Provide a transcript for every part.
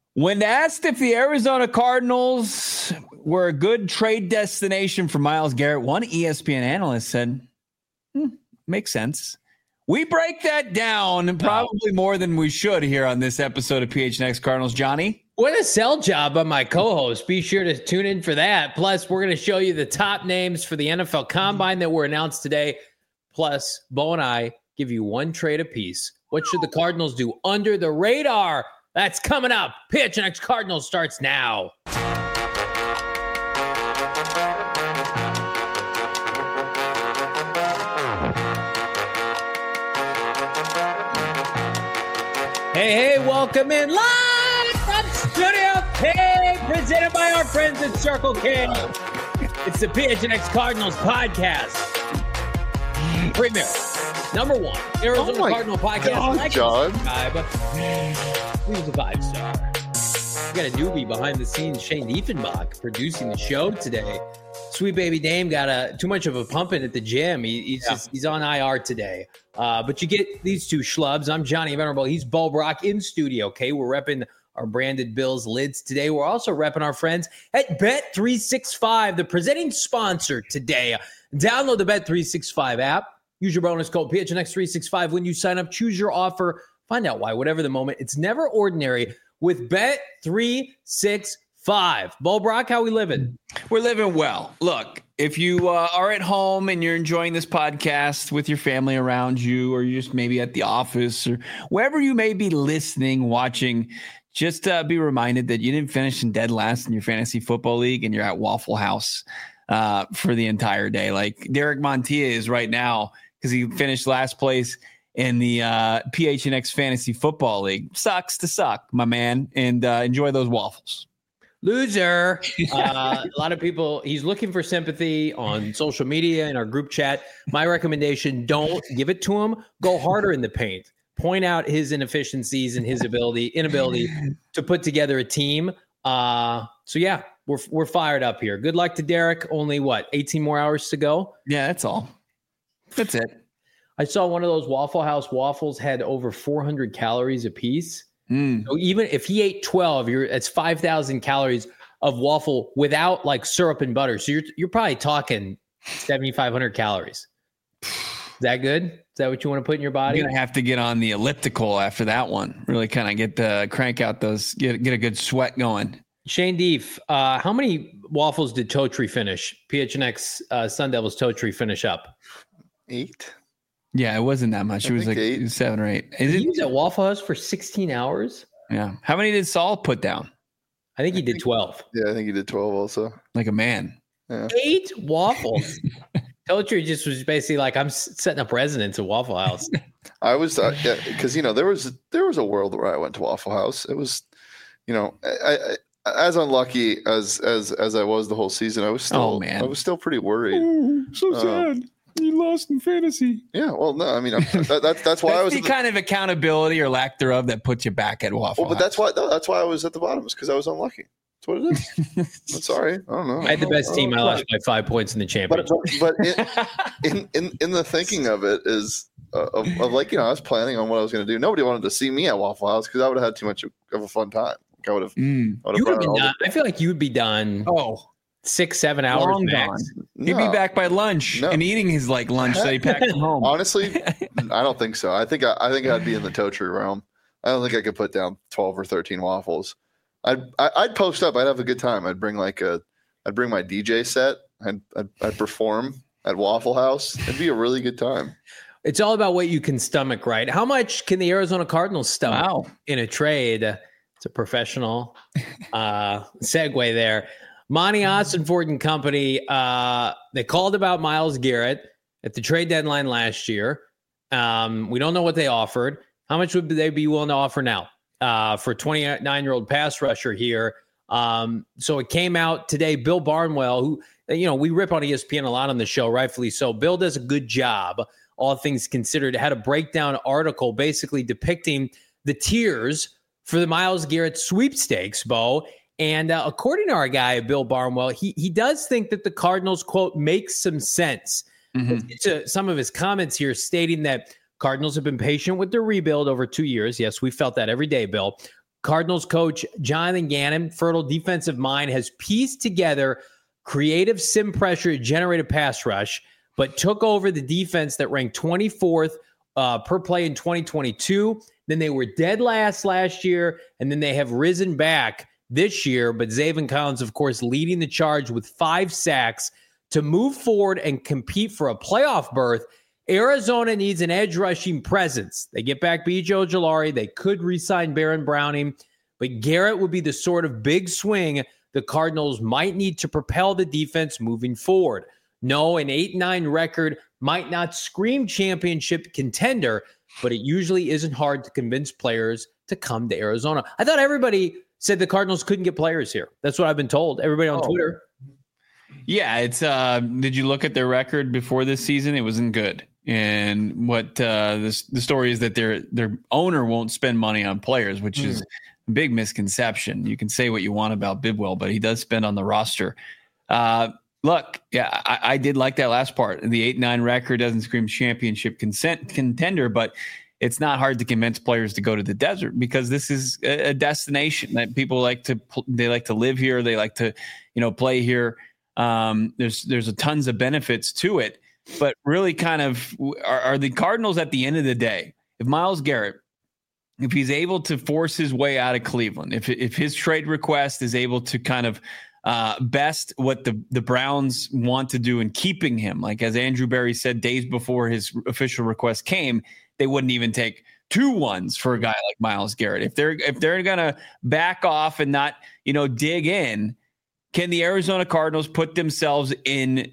When asked if the Arizona Cardinals were a good trade destination for Myles Garrett, one ESPN analyst said, makes sense. We break that down probably more than we should here on this episode of PHNX Cardinals. Johnny? What a sell job on my co-host. Be sure to tune in for that. Plus, we're going to show you the top names for the NFL Combine that were announced today. Plus, Bo and I give you one trade apiece. What should the Cardinals do under the radar? That's coming up. PHNX Cardinals starts now. Hey, welcome in live from Studio K, presented by our friends at Circle K. It's the PHNX Cardinals podcast. Premier, number one, Arizona Cardinal podcast. God, John. He's a 5-star. We got a newbie behind the scenes, Shane Diefenbach, producing the show today. Sweet baby Dame got too much of a pumping at the gym. He's on IR today. But you get these two schlubs. I'm Johnny Venerable. He's Bo Brock in studio. Okay, we're repping our branded Bills lids today. We're also repping our friends at Bet365, the presenting sponsor today. Download the Bet365 app. Use your bonus code PHNX365 when you sign up. Choose your offer. Find out why. Whatever the moment, it's never ordinary with Bet365. Bo Brock, how we living? We're living well. Look, if you are at home and you're enjoying this podcast with your family around you, or you're just maybe at the office or wherever you may be listening, watching, just be reminded that you didn't finish in dead last in your fantasy football league and you're at Waffle House for the entire day. Like Derek Montilla is right now because he finished last place in the PHNX Fantasy Football League. Sucks to suck, my man, and enjoy those waffles. Loser. A lot of people, he's looking for sympathy on social media in our group chat. My recommendation, don't give it to him. Go harder in the paint. Point out his inefficiencies and his inability to put together a team. So yeah, we're fired up here. Good luck to Derek. Only 18 more hours to go? Yeah, that's all. That's it. I saw one of those Waffle House waffles had over 400 calories a piece. So even if he ate 12, it's 5,000 calories of waffle without like syrup and butter. So you're probably talking 7,500 calories. Is that good? Is that what you want to put in your body? You're gonna have to get on the elliptical after that one. Really kind of crank out those, get a good sweat going. Shane Deef, how many waffles did Totri finish? PHNX Sun Devils Totri finish up? 8. Yeah, it wasn't that much. It was like 8. 7 or 8. He was at Waffle House for 16 hours? Yeah. How many did Saul put down? I think he did 12. Yeah, I think he did 12 also. Like a man. Yeah. 8 waffles. Totri just was basically like, I'm setting up residence at Waffle House. I was, because, there was a world where I went to Waffle House. It was, I as unlucky as I was the whole season, I was still pretty worried. Oh, so sad. You lost in fantasy. Yeah, well, no, I mean that's why I was the kind of accountability or lack thereof that puts you back at Waffle House. But that's why I was at the bottom, is because I was unlucky. That's what it is. I'm sorry, I don't know. I had the best team. I lost by 5 points in the championship. But in the thinking of it is of like, I was planning on what I was going to do. Nobody wanted to see me at Waffle House because I would have had too much of a fun time. I would have. You would be done. I feel like you would be done. 6-7 hours long max. He'd be back by lunch and eating his lunch that he packed from home. Honestly, I don't think so. I think I'd be in the Totri realm. I don't think I could put down 12 or 13 waffles. I'd post up. I'd have a good time. I'd bring my DJ set. I'd perform at Waffle House. It'd be a really good time. It's all about what you can stomach, right? How much can the Arizona Cardinals stomach in a trade? It's a professional segue there. Monty Ossenfort and company, they called about Myles Garrett at the trade deadline last year. We don't know what they offered. How much would they be willing to offer now for a 29-year-old pass rusher here? So it came out today. Bill Barnwell, who, we rip on ESPN a lot on the show, rightfully so. Bill does a good job, all things considered. Had a breakdown article basically depicting the tiers for the Myles Garrett sweepstakes, Bo. And according to our guy, Bill Barnwell, he does think that the Cardinals, quote, makes some sense. To some of his comments here stating that Cardinals have been patient with their rebuild over 2 years. Yes, we felt that every day, Bill. Cardinals coach Jonathan Gannon, fertile defensive mind, has pieced together creative sim pressure generated pass rush, but took over the defense that ranked 24th per play in 2022. Then they were dead last year, and then they have risen back this year. But Zaven Collins, of course, leading the charge with 5 sacks to move forward and compete for a playoff berth. Arizona needs an edge rushing presence. They get back B.J. Ojulari. They could re-sign Baron Browning, but Garrett would be the sort of big swing the Cardinals might need to propel the defense moving forward. No, an 8-9 record might not scream championship contender, but it usually isn't hard to convince players to come to Arizona. I thought everybody said the Cardinals couldn't get players here. That's what I've been told. Everybody on Twitter. Yeah, it's did you look at their record before this season? It wasn't good. And what the story is that their owner won't spend money on players, which is a big misconception. You can say what you want about Bidwell, but he does spend on the roster. Look, yeah, I did like that last part. The 8-9 record doesn't scream championship contender, but it's not hard to convince players to go to the desert because this is a destination that people like to live here. They like to, play here. There's tons of benefits to it, but really kind of are the Cardinals at the end of the day, if Myles Garrett, if he's able to force his way out of Cleveland, if his trade request is able to kind of best what the Browns want to do in keeping him, like as Andrew Berry said days before his official request came, they wouldn't even take 2 ones for a guy like Myles Garrett. If they're gonna back off and not dig in, can the Arizona Cardinals put themselves in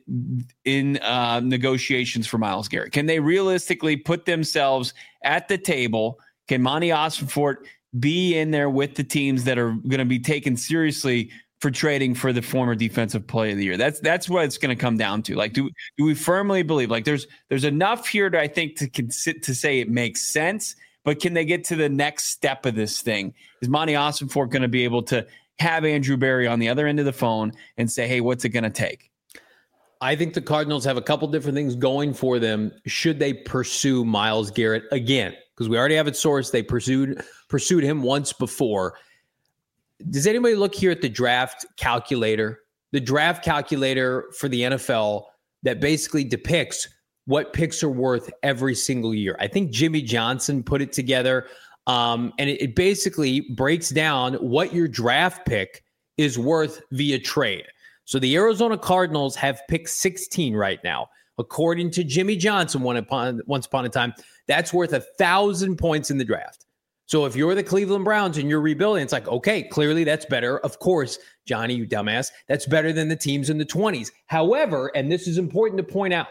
negotiations for Myles Garrett? Can they realistically put themselves at the table? Can Monty Ossenfort be in there with the teams that are going to be taken seriously for trading for the former defensive player of the year? That's what it's going to come down to. Like, do we firmly believe like there's enough here to, I think, to say it makes sense, but can they get to the next step of this thing? Is Monty Ossenfort going to be able to have Andrew Berry on the other end of the phone and say, hey, what's it going to take? I think the Cardinals have a couple different things going for them should they pursue Myles Garrett again, because we already have it sourced. They pursued him once before. Does anybody look here at the draft calculator? The draft calculator for the NFL that basically depicts what picks are worth every single year. I think Jimmy Johnson put it together, and it basically breaks down what your draft pick is worth via trade. So the Arizona Cardinals have pick 16 right now. According to Jimmy Johnson, once upon a time, that's worth 1,000 points in the draft. So if you're the Cleveland Browns and you're rebuilding, it's like, okay, clearly that's better. Of course, Johnny, you dumbass, that's better than the teams in the 20s. However, and this is important to point out,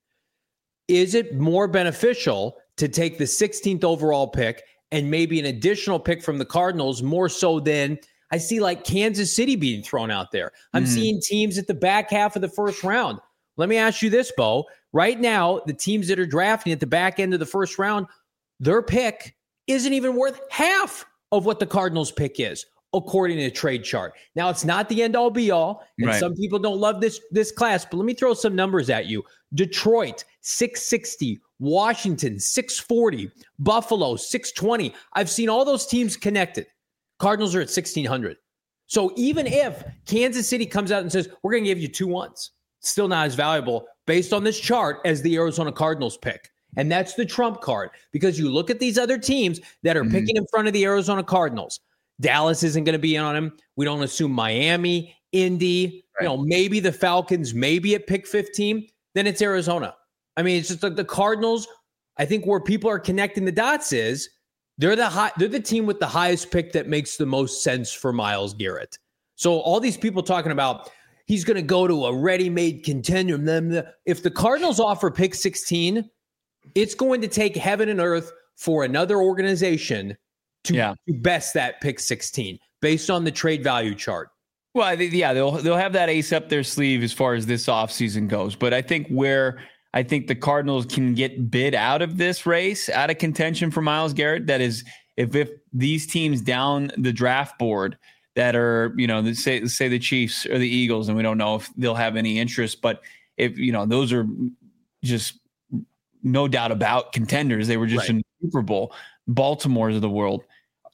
is it more beneficial to take the 16th overall pick and maybe an additional pick from the Cardinals more so than I see like Kansas City being thrown out there? I'm seeing teams at the back half of the first round. Let me ask you this, Bo. Right now, the teams that are drafting at the back end of the first round, their pick isn't even worth half of what the Cardinals pick is, according to the trade chart. Now, it's not the end all be all, and right. Some people don't love this class, but let me throw some numbers at you. Detroit, 660. Washington, 640. Buffalo, 620. I've seen all those teams connected. Cardinals are at 1,600. So even if Kansas City comes out and says, we're going to give you 2 1s, still not as valuable based on this chart as the Arizona Cardinals pick. And that's the trump card, because you look at these other teams that are picking in front of the Arizona Cardinals. Dallas isn't going to be on them. We don't assume Miami, Indy, right. Maybe the Falcons, maybe at pick 15. Then it's Arizona. I mean, it's just like the Cardinals. I think where people are connecting the dots is they're the team with the highest pick that makes the most sense for Myles Garrett. So all these people talking about he's going to go to a ready-made contender. If the Cardinals offer pick 16, it's going to take heaven and earth for another organization to best that pick 16 based on the trade value chart. Well, I think, they'll have that ace up their sleeve as far as this offseason goes. But I think where I think the Cardinals can get bid out of this race, out of contention for Myles Garrett, that is if these teams down the draft board that are, say the Chiefs or the Eagles, and we don't know if they'll have any interest, but if, those are just no doubt about contenders. They were just in the Super Bowl. Baltimore's of the world.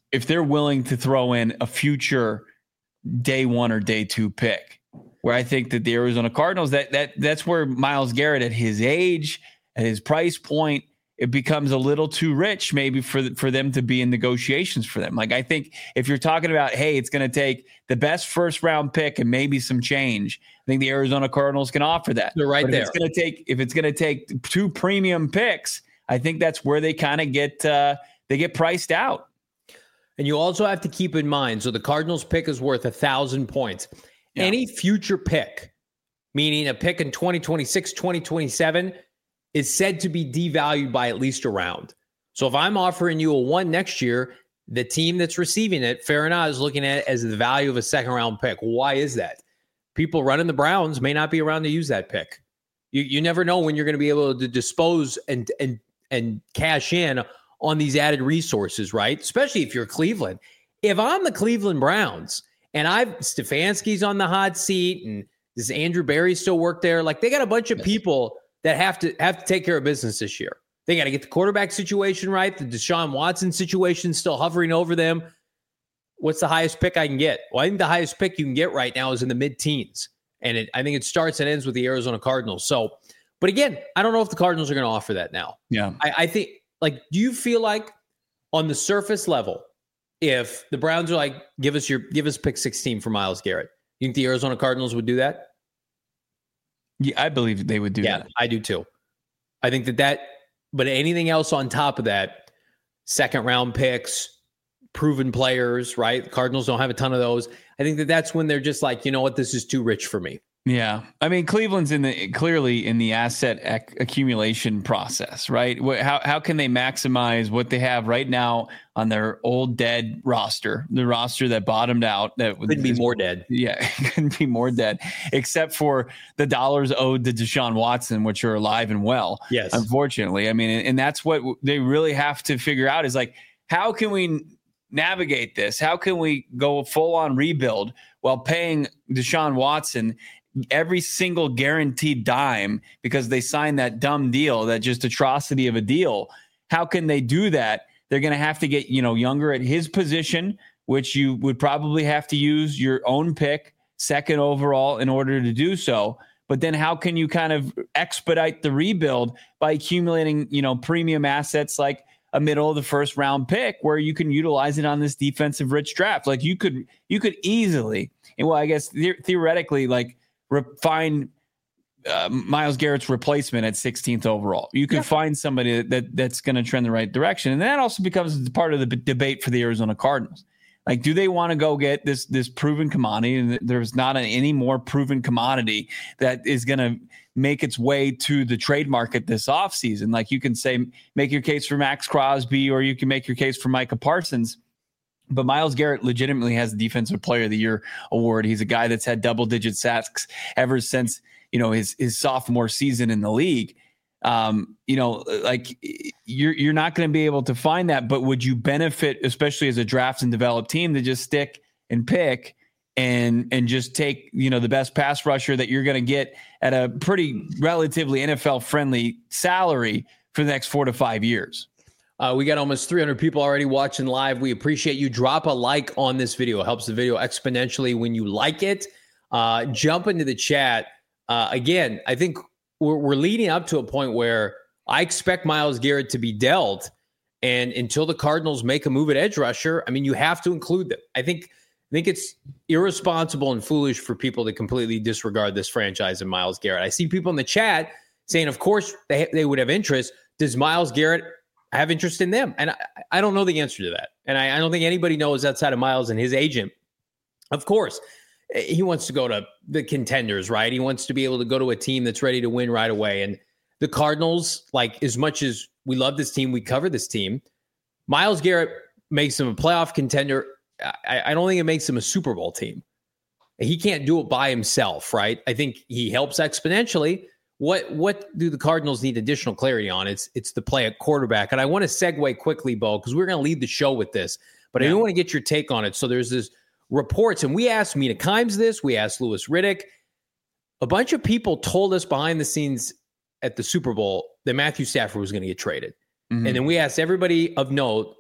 if they're willing to throw in a future day 1 or day 2 pick, where I think that the Arizona Cardinals, that's where Myles Garrett at his age, at his price point, it becomes a little too rich maybe for them to be in negotiations for them. Like, I think if you're talking about, hey, it's going to take the best first round pick and maybe some change, I think the Arizona Cardinals can offer that. They're right there. If it's going to take 2 premium picks, I think that's where they kind of get priced out. And you also have to keep in mind, so the Cardinals pick is worth 1,000 points. Yeah. Any future pick, meaning a pick in 2026, 2027, is said to be devalued by at least a round. So if I'm offering you a 1 next year, the team that's receiving it, fair enough, is looking at it as the value of a second round pick. Why is that? People running the Browns may not be around to use that pick. You never know when you're going to be able to dispose and cash in on these added resources, right? Especially if you're Cleveland. If I'm the Cleveland Browns and Stefanski's on the hot seat and does Andrew Berry still work there? Like, they got a bunch of people that have to take care of business this year. They got to get the quarterback situation right. The Deshaun Watson situation still hovering over them. What's the highest pick I can get? Well, I think the highest pick you can get right now is in the mid-teens. And I think it starts and ends with the Arizona Cardinals. So, but again, I don't know if the Cardinals are going to offer that now. Yeah. I think, like, do you feel like on the surface level, if the Browns are like, give us pick 16 for Myles Garrett, you think the Arizona Cardinals would do that? Yeah, I believe they would do that. Yeah, I do too. I think that, but anything else on top of that, second round picks, proven players, right? The Cardinals don't have a ton of those. I think that's when they're just like, you know what, this is too rich for me. Yeah. I mean, Cleveland's clearly in the asset accumulation process, right? How can they maximize what they have right now on their old dead roster, the roster that bottomed out? That could be more dead. Yeah, couldn't be more dead, except for the dollars owed to Deshaun Watson, which are alive and well. Yes. Unfortunately. I mean, and that's what they really have to figure out is like, how can we navigate this? How can we go full on rebuild while paying Deshaun Watson every single guaranteed dime because they signed that dumb deal, that just atrocity of a deal? How can they do that? They're going to have to get, younger at his position, which you would probably have to use your own pick, second overall, in order to do so. But then how can you kind of expedite the rebuild by accumulating, premium assets like a middle of the first round pick where you can utilize it on this defensive rich draft? Like you could easily, and well, I guess theoretically, like, find Myles Garrett's replacement at 16th overall. You could find somebody that's going to trend the right direction. And that also becomes part of the debate for the Arizona Cardinals. Like, do they want to go get this proven commodity? And there's not any more proven commodity that is going to make its way to the trade market this offseason. Like, you can say, make your case for Max Crosby, or you can make your case for Micah Parsons. But Myles Garrett legitimately has the Defensive Player of the Year award. He's a guy that's had double-digit sacks ever since, his sophomore season in the league. Like, you're not going to be able to find that. But would you benefit, especially as a draft and develop team, to just stick and pick and just take, the best pass rusher that you're going to get at a pretty relatively NFL-friendly salary for the next 4 to 5 years? We got almost 300 people already watching live. We appreciate you. Drop a like on this video. It helps the video exponentially when you like it. Jump into the chat. Again, I think we're leading up to a point where I expect Myles Garrett to be dealt. And until the Cardinals make a move at edge rusher, I mean, you have to include them. I think it's irresponsible and foolish for people to completely disregard this franchise and Myles Garrett. I see people in the chat saying, of course, they would have interest. Does Myles Garrett have interest in them? And I don't know the answer to that. And I don't think anybody knows outside of Myles and his agent. Of course, he wants to go to the contenders, right? He wants to be able to go to a team that's ready to win right away. And the Cardinals, like, as much as we love this team, we cover this team, Myles Garrett makes him a playoff contender. I don't think it makes him a Super Bowl team. He can't do it by himself, right? I think he helps exponentially. What do the Cardinals need additional clarity on? It's the play at quarterback. And I want to segue quickly, Bo, because we're going to lead the show with this, but I do want to get your take on it. So there's this reports, and we asked Mina Kimes this, we asked Louis Riddick. A bunch of people told us behind the scenes at the Super Bowl that Matthew Stafford was going to get traded. Mm-hmm. And then we asked everybody of note,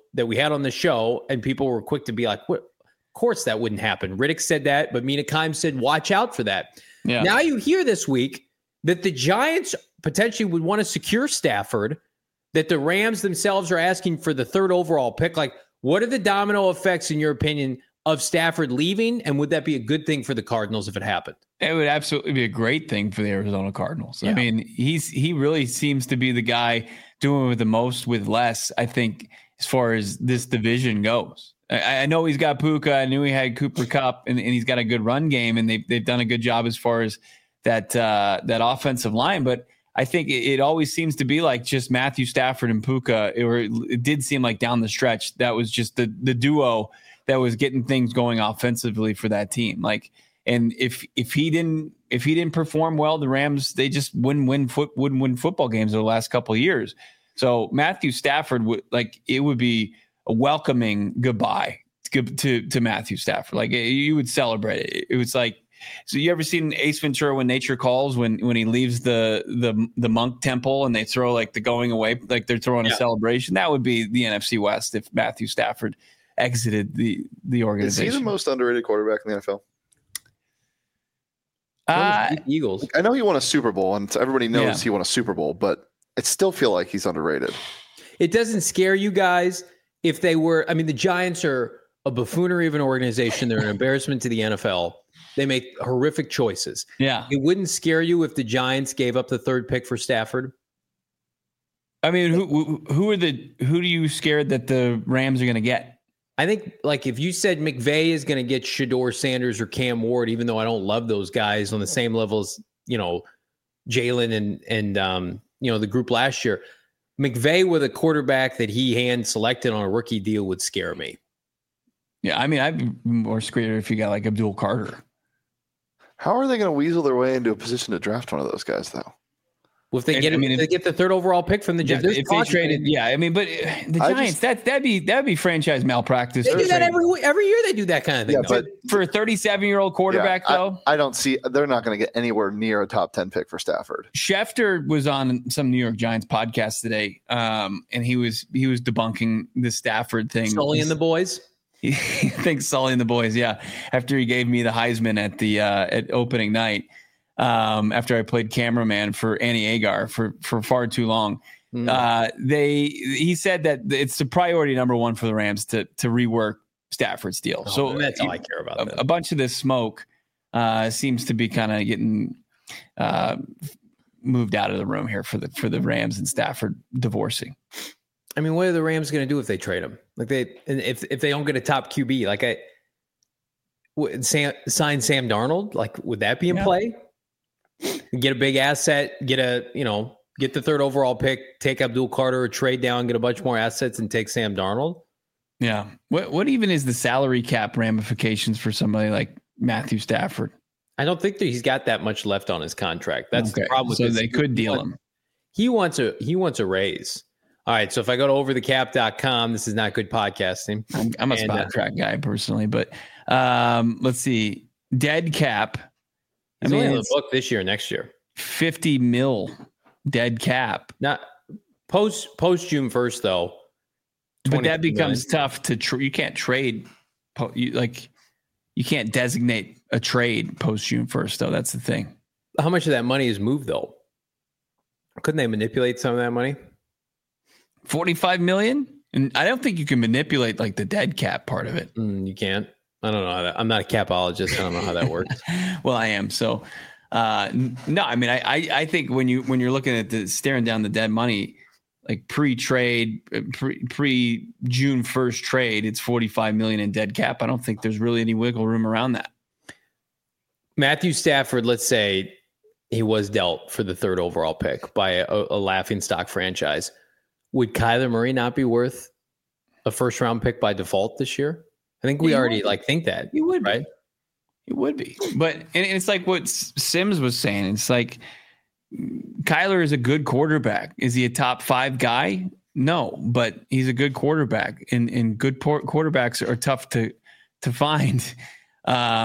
that we had on the show, and people were quick to be like, "What? Of course that wouldn't happen." Riddick said that, but Mina Kimes said, "Watch out for that." Yeah. Now you hear this week that the Giants potentially would want to secure Stafford, that the Rams themselves are asking for the 3rd overall pick. Like, what are the domino effects, in your opinion, of Stafford leaving? And would that be a good thing for the Cardinals if it happened? It would absolutely be a great thing for the Arizona Cardinals. Yeah. I mean, he really seems to be the guy doing the most with less, I think, as far as this division goes. I know he's got Puka. I knew he had Cooper Kupp, and he's got a good run game, and they've done a good job as far as that offensive line. But I think it always seems to be like just Matthew Stafford and Puka. It did seem like down the stretch that was just the duo that was getting things going offensively for that team. Like, and if he didn't perform well, the Rams, they just wouldn't win football games over the last couple of years. So Matthew Stafford it would be a welcoming goodbye to Matthew Stafford. Like, you would celebrate it. It was like, so you ever seen Ace Ventura When Nature Calls, when he leaves the monk temple and they throw like the going away, like they're throwing a celebration? That would be the NFC West if Matthew Stafford exited the organization. Is he the most underrated quarterback in the NFL? Eagles. I know he won a Super Bowl, and everybody knows he won a Super Bowl, but I still feel like he's underrated. It doesn't scare you guys if they were. I mean, the Giants are a buffoonery of an organization. They're an embarrassment to the NFL. They make horrific choices. Yeah. It wouldn't scare you if the Giants gave up the 3rd pick for Stafford. I mean, who do you scared that the Rams are going to get? I think, like, if you said McVay is going to get Shedeur Sanders or Cam Ward, even though I don't love those guys on the same level as, Jalen and the group last year, McVay with a quarterback that he hand selected on a rookie deal would scare me. Yeah, I mean, I'd be more scared if you got like Abdul Carter. How are they going to weasel their way into a position to draft one of those guys, though? Well, if they get the 3rd overall pick from the Giants, if they traded, but the Giants, that'd be franchise malpractice. They do that every year. They do that kind of thing. Yeah, but for a 37-year-old quarterback, though, I don't see they're not going to get anywhere near a top 10 pick for Stafford. Schefter was on some New York Giants podcast today, and he was debunking the Stafford thing. Sully and the boys. He thinks Sully and the boys, yeah. After he gave me the Heisman at opening night. After I played cameraman for Annie Agar for far too long. He said that it's the priority number one for the Rams to rework Stafford's deal. So that's all I care about. A bunch of this smoke seems to be kind of getting moved out of the room here for the Rams and Stafford divorcing. I mean, what are the Rams going to do if they trade him? Like if they don't get a top QB, sign Sam Darnold, like would that be in play? Get a big asset, get the 3rd overall pick, take Abdul Carter, or trade down, get a bunch more assets, and take Sam Darnold. Yeah. What even is the salary cap ramifications for somebody like Matthew Stafford? I don't think that he's got that much left on his contract. That's the problem with this. So they could deal him. He wants a raise. All right. So if I go to overthecap.com, this is not good podcasting. I'm a spot track guy personally, but let's see. Dead cap. He's only in the book this year, next year. 50 mil dead cap. Not post June 1st, though. But that becomes tough to you can't trade. You can't designate a trade post June 1st, though. That's the thing. How much of that money is moved, though? Couldn't they manipulate some of that money? 45 million? And I don't think you can manipulate like the dead cap part of it. You can't. I don't know how that. I'm not a capologist. I don't know how that works. Well, I am. So, no, I mean, I think when you're looking at staring down the dead money, like pre-trade, pre-June 1st trade, it's 45 million in dead cap. I don't think there's really any wiggle room around that. Matthew Stafford, let's say he was dealt for the 3rd overall pick by a laughingstock franchise. Would Kyler Murray not be worth a 1st-round pick by default this year? I think we already think that. He would, right? He would be. But and it's like what Sims was saying. It's like Kyler is a good quarterback. Is he a top 5 guy? No, but he's a good quarterback, and good quarterbacks are tough to find.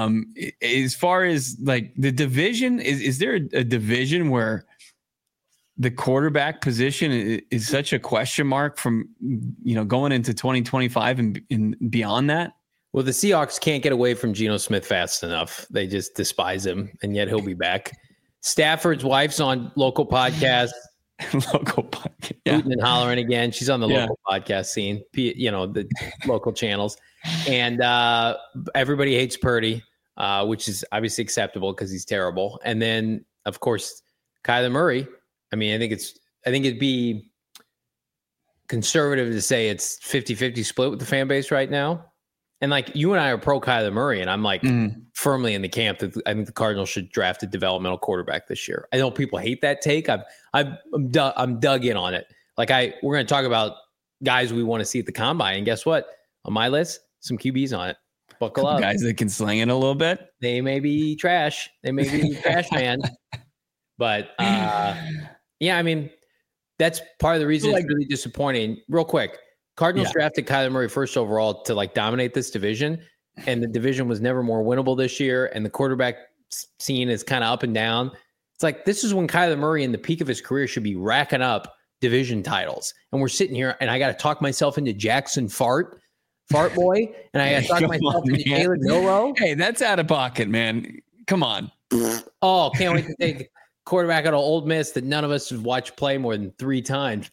As far as like the division, is there a division where the quarterback position is such a question mark from, going into 2025 and beyond that. Well, the Seahawks can't get away from Geno Smith fast enough. They just despise him, and yet he'll be back. Stafford's wife's on local podcast. Yeah. Hooting and hollering again. She's on the local podcast scene, the local channels. And everybody hates Purdy, which is obviously acceptable because he's terrible. And then, of course, Kyler Murray. I mean, I think it'd be conservative to say it's 50-50 split with the fan base right now. And like you and I are pro Kyler Murray, and I'm like firmly in the camp that I think the Cardinals should draft a developmental quarterback this year. I know people hate that take. I'm dug in on it. Like we're going to talk about guys we want to see at the combine, and guess what? On my list, some QBs on it. Buckle up, guys that can sling it a little bit. They may be trash. They may be trash man, but yeah, I mean that's part of the reason it's really disappointing. Real quick. Cardinals drafted Kyler Murray first overall to like dominate this division, and the division was never more winnable this year. And the quarterback scene is kind of up and down. It's like this is when Kyler Murray, in the peak of his career, should be racking up division titles. And we're sitting here, and I got to talk myself into Jackson Fart Boy, and I got to talk myself into Jalen Milroe. Hey, that's out of pocket, man. Come on. Oh, can't wait to take quarterback out of Ole Miss that none of us have watched play more than 3 times.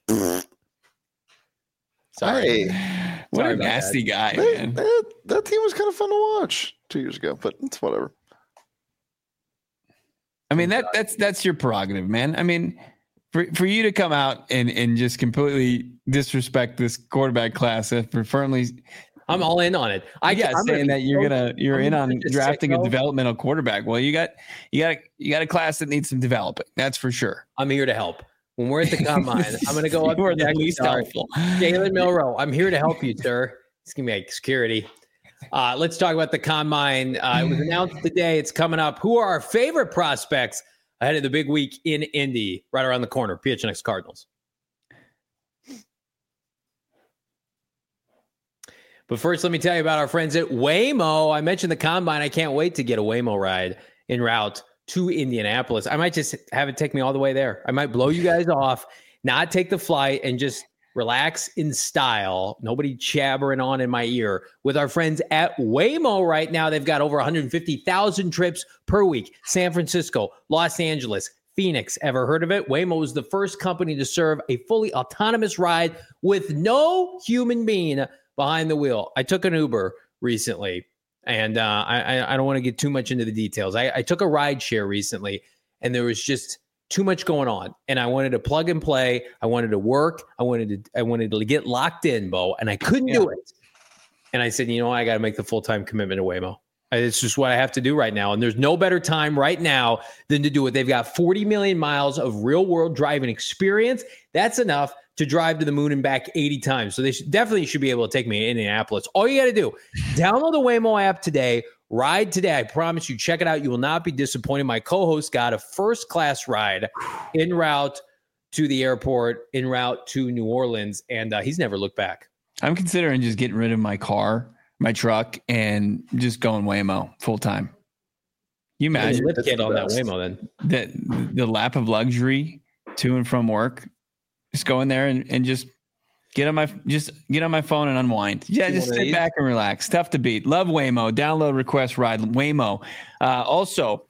Sorry. What a nasty guy, man. That team was kind of fun to watch 2 years ago, but it's whatever. I mean, that's your prerogative, man. I mean, for you to come out and just completely disrespect this quarterback class for firmly, I'm all in on it. I'm saying that you're in on drafting a developmental quarterback. Well, you got a class that needs some developing. That's for sure. I'm here to help. When we're at the combine, I'm going to go up to the least helpful. Jalen Milroe, I'm here to help you, sir. It's going to be like security. Let's talk about the combine. It was announced today. It's coming up. Who are our favorite prospects ahead of the big week in Indy, right around the corner? PHNX Cardinals. But first, let me tell you about our friends at Waymo. I mentioned the combine. I can't wait to get a Waymo ride en route to Indianapolis. I might just have it take me all the way there. I might blow you guys off, not take the flight, and just relax in style. Nobody jabbering on in my ear with our friends at Waymo right now. They've got over 150,000 trips per week. San Francisco, Los Angeles, Phoenix. Ever heard of it? Waymo is the first company to serve a fully autonomous ride with no human being behind the wheel. I took an Uber recently. And I don't want to get too much into the details. I took a ride share recently, and there was just too much going on. And I wanted to plug and play. I wanted to work. I wanted to get locked in, Bo, and I couldn't do it. And I said, I got to make the full-time commitment to Waymo. It's just what I have to do right now. And there's no better time right now than to do it. They've got 40 million miles of real-world driving experience. That's enough to drive to the moon and back 80 times. So they definitely should be able to take me to Indianapolis. All you got to do, download the Waymo app today, ride today. I promise you, check it out. You will not be disappointed. My co-host got a first-class ride en route to the airport, en route to New Orleans, and he's never looked back. I'm considering just getting rid of my truck, and just going Waymo full time. You imagine lift kit on that Waymo then. The lap of luxury to and from work. Just go in there and just get on my phone and unwind. Yeah, just sit back and relax. Tough to beat. Love Waymo. Download, request, ride Waymo. Also,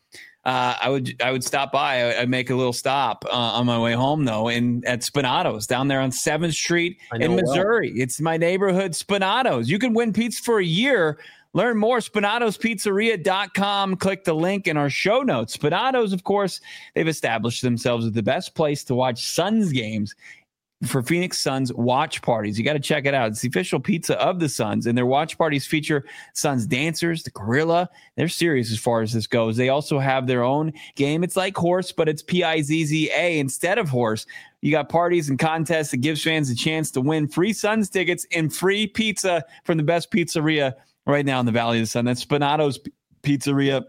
I would stop by. I'd make a little stop on my way home though, at Spinato's down there on 7th Street in Missouri. Well. It's my neighborhood Spinato's. You can win pizza for a year. Learn more, SpinatosPizzeria.com. Click the link in our show notes. Spinato's, of course, they've established themselves as the best place to watch Suns games for Phoenix Suns watch parties. You got to check it out. It's the official pizza of the Suns, and their watch parties feature Suns dancers, the gorilla. They're serious as far as this goes. They also have their own game. It's like horse, but it's Pizza instead of horse. You got parties and contests that gives fans a chance to win free Suns tickets and free pizza from the best pizzeria right now in the Valley of the Sun. That's Spinato's Pizzeria.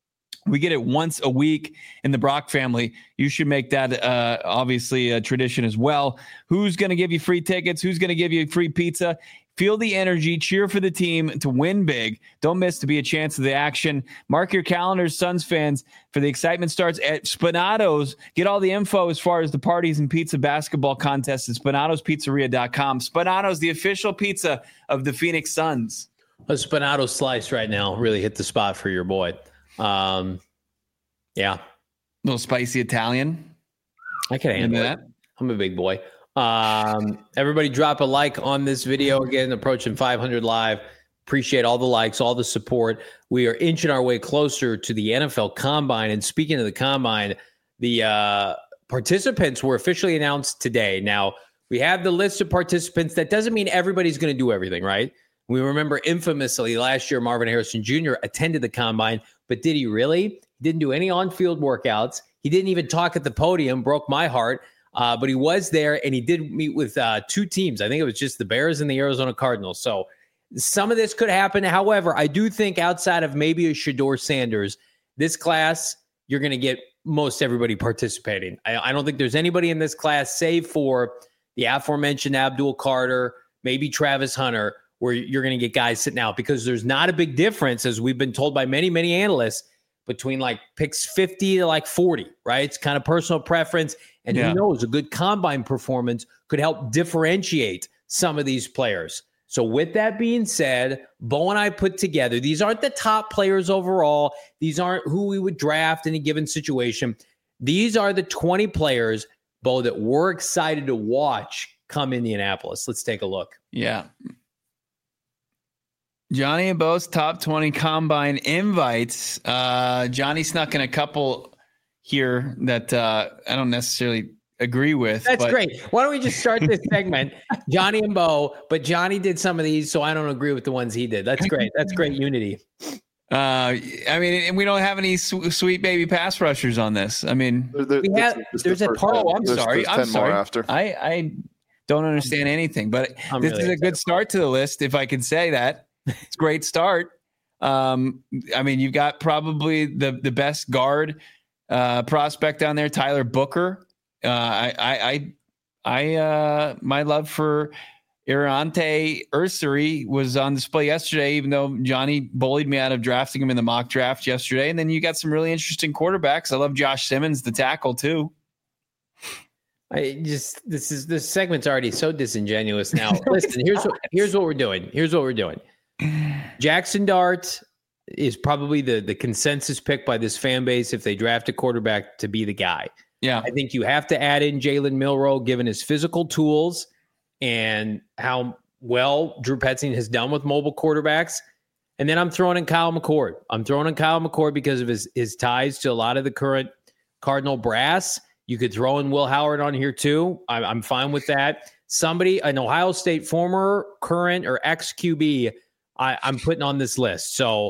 We get it once a week in the Brock family. You should make that obviously a tradition as well. Who's going to give you free tickets? Who's going to give you free pizza? Feel the energy, cheer for the team to win big. Don't miss to be a chance of the action. Mark your calendars, Suns fans, for the excitement starts at Spinato's. Get all the info as far as the parties and pizza basketball contests at Spinato'sPizzeria.com. Spinato's, the official pizza of the Phoenix Suns. A Spinato slice right now really hit the spot for your boy. Yeah. Little spicy Italian. I can handle that. I'm a big boy. Everybody drop a like on this video. Again, approaching 500 live. Appreciate all the likes, all the support. We are inching our way closer to the NFL Combine. And speaking of the Combine, the participants were officially announced today. Now, we have the list of participants. That doesn't mean everybody's going to do everything, right? We remember infamously last year, Marvin Harrison Jr. attended the Combine, but did he really? He didn't do any on-field workouts. He didn't even talk at the podium, broke my heart. But he was there, and he did meet with two teams. I think it was just the Bears and the Arizona Cardinals. So some of this could happen. However, I do think outside of maybe a Shedeur Sanders, this class, you're going to get most everybody participating. I don't think there's anybody in this class, save for the aforementioned Abdul Carter, maybe Travis Hunter, where you're going to get guys sitting out, because there's not a big difference, as we've been told by many, many analysts, between like picks 50 to like 40, right? It's kind of personal preference. And who knows, a good combine performance could help differentiate some of these players. So with that being said, Bo and I put together, these aren't the top players overall. These aren't who we would draft in a given situation. These are the 20 players, Bo, that we're excited to watch come Indianapolis. Let's take a look. Yeah. Johnny and Bo's top 20 combine invites. Johnny snuck in a couple here that I don't necessarily agree with. That's great. Why don't we just start this segment, Johnny and Bo, but Johnny did some of these, so I don't agree with the ones he did. That's great. That's great unity. I mean, we don't have any sweet baby pass rushers on this. I mean, there's a part. Oh, I'm sorry. After. I don't understand anything, but this is a good start to the list, if I can say that. It's a great start. I mean, you've got probably the best guard prospect down there, Tyler Booker. My love for Irante Ursary was on display yesterday, even though Johnny bullied me out of drafting him in the mock draft yesterday. And then you got some really interesting quarterbacks. I love Josh Simmons, the tackle too. This segment's already so disingenuous now. Listen, here's what we're doing. Jackson Dart is probably the consensus pick by this fan base if they draft a quarterback to be the guy. Yeah. I think you have to add in Jalen Milroe, given his physical tools and how well Drew Petzing has done with mobile quarterbacks. And then I'm throwing in Kyle McCord. Because of his ties to a lot of the current Cardinal brass. You could throw in Will Howard on here too. I'm fine with that. Somebody, an Ohio State former, current, or ex-QB, I'm putting on this list. So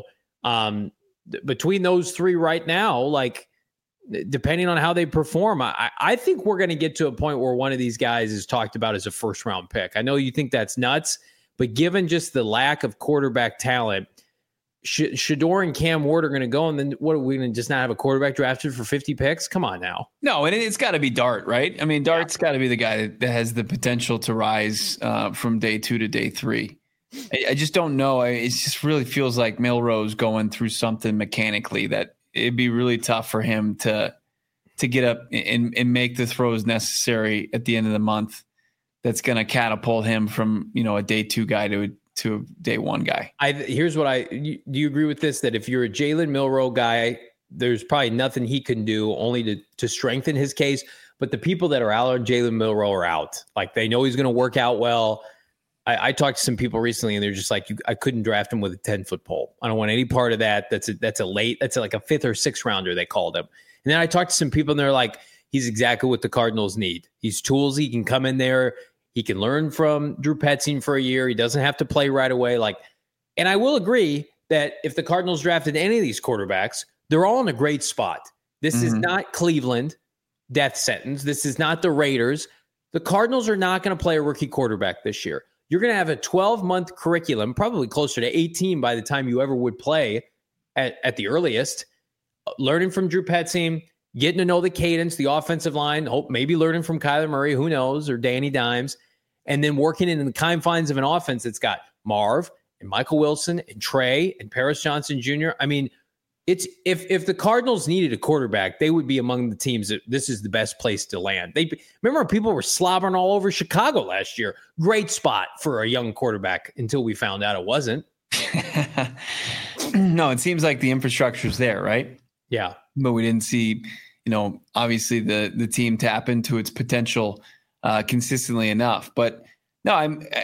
between those three right now, like depending on how they perform, I think we're going to get to a point where one of these guys is talked about as a first-round pick. I know you think that's nuts, but given just the lack of quarterback talent, Shedeur and Cam Ward are going to go, and then what are we going to just not have a quarterback drafted for 50 picks? Come on now. No, and it's got to be Dart, right? I mean, Dart's got to be the guy that has the potential to rise from day 2 to day 3. I just don't know. It just really feels like Milroe's going through something mechanically that it'd be really tough for him to get up and make the throws necessary at the end of the month. That's going to catapult him from, a day 2 guy to a day 1 guy. Do you agree with this? That if you're a Jalen Milroe guy, there's probably nothing he can do only to strengthen his case. But the people that are out on Jalen Milroe are out. Like they know he's going to work out well. I talked to some people recently, and they're just like, I couldn't draft him with a 10-foot pole. I don't want any part of that. That's like a 5th or 6th rounder, they called him. And then I talked to some people, and they're like, he's exactly what the Cardinals need. He's tools. He can come in there. He can learn from Drew Petzing for a year. He doesn't have to play right away. And I will agree that if the Cardinals drafted any of these quarterbacks, they're all in a great spot. This is not Cleveland, death sentence. This is not the Raiders. The Cardinals are not going to play a rookie quarterback this year. You're going to have a 12-month curriculum, probably closer to 18 by the time you ever would play at the earliest, learning from Drew Petzing, getting to know the cadence, the offensive line, maybe learning from Kyler Murray, who knows, or Danny Dimes. and then working in the confines of an offense that's got Marv and Michael Wilson and Trey and Paris Johnson Jr. I mean, it's if the Cardinals needed a quarterback, they would be among the teams that this is the best place to land. Remember people were slobbering all over Chicago last year. Great spot for a young quarterback until we found out it wasn't. No, it seems like the infrastructure's there, right? Yeah. But we didn't see, obviously the team tap into its potential consistently enough. But no,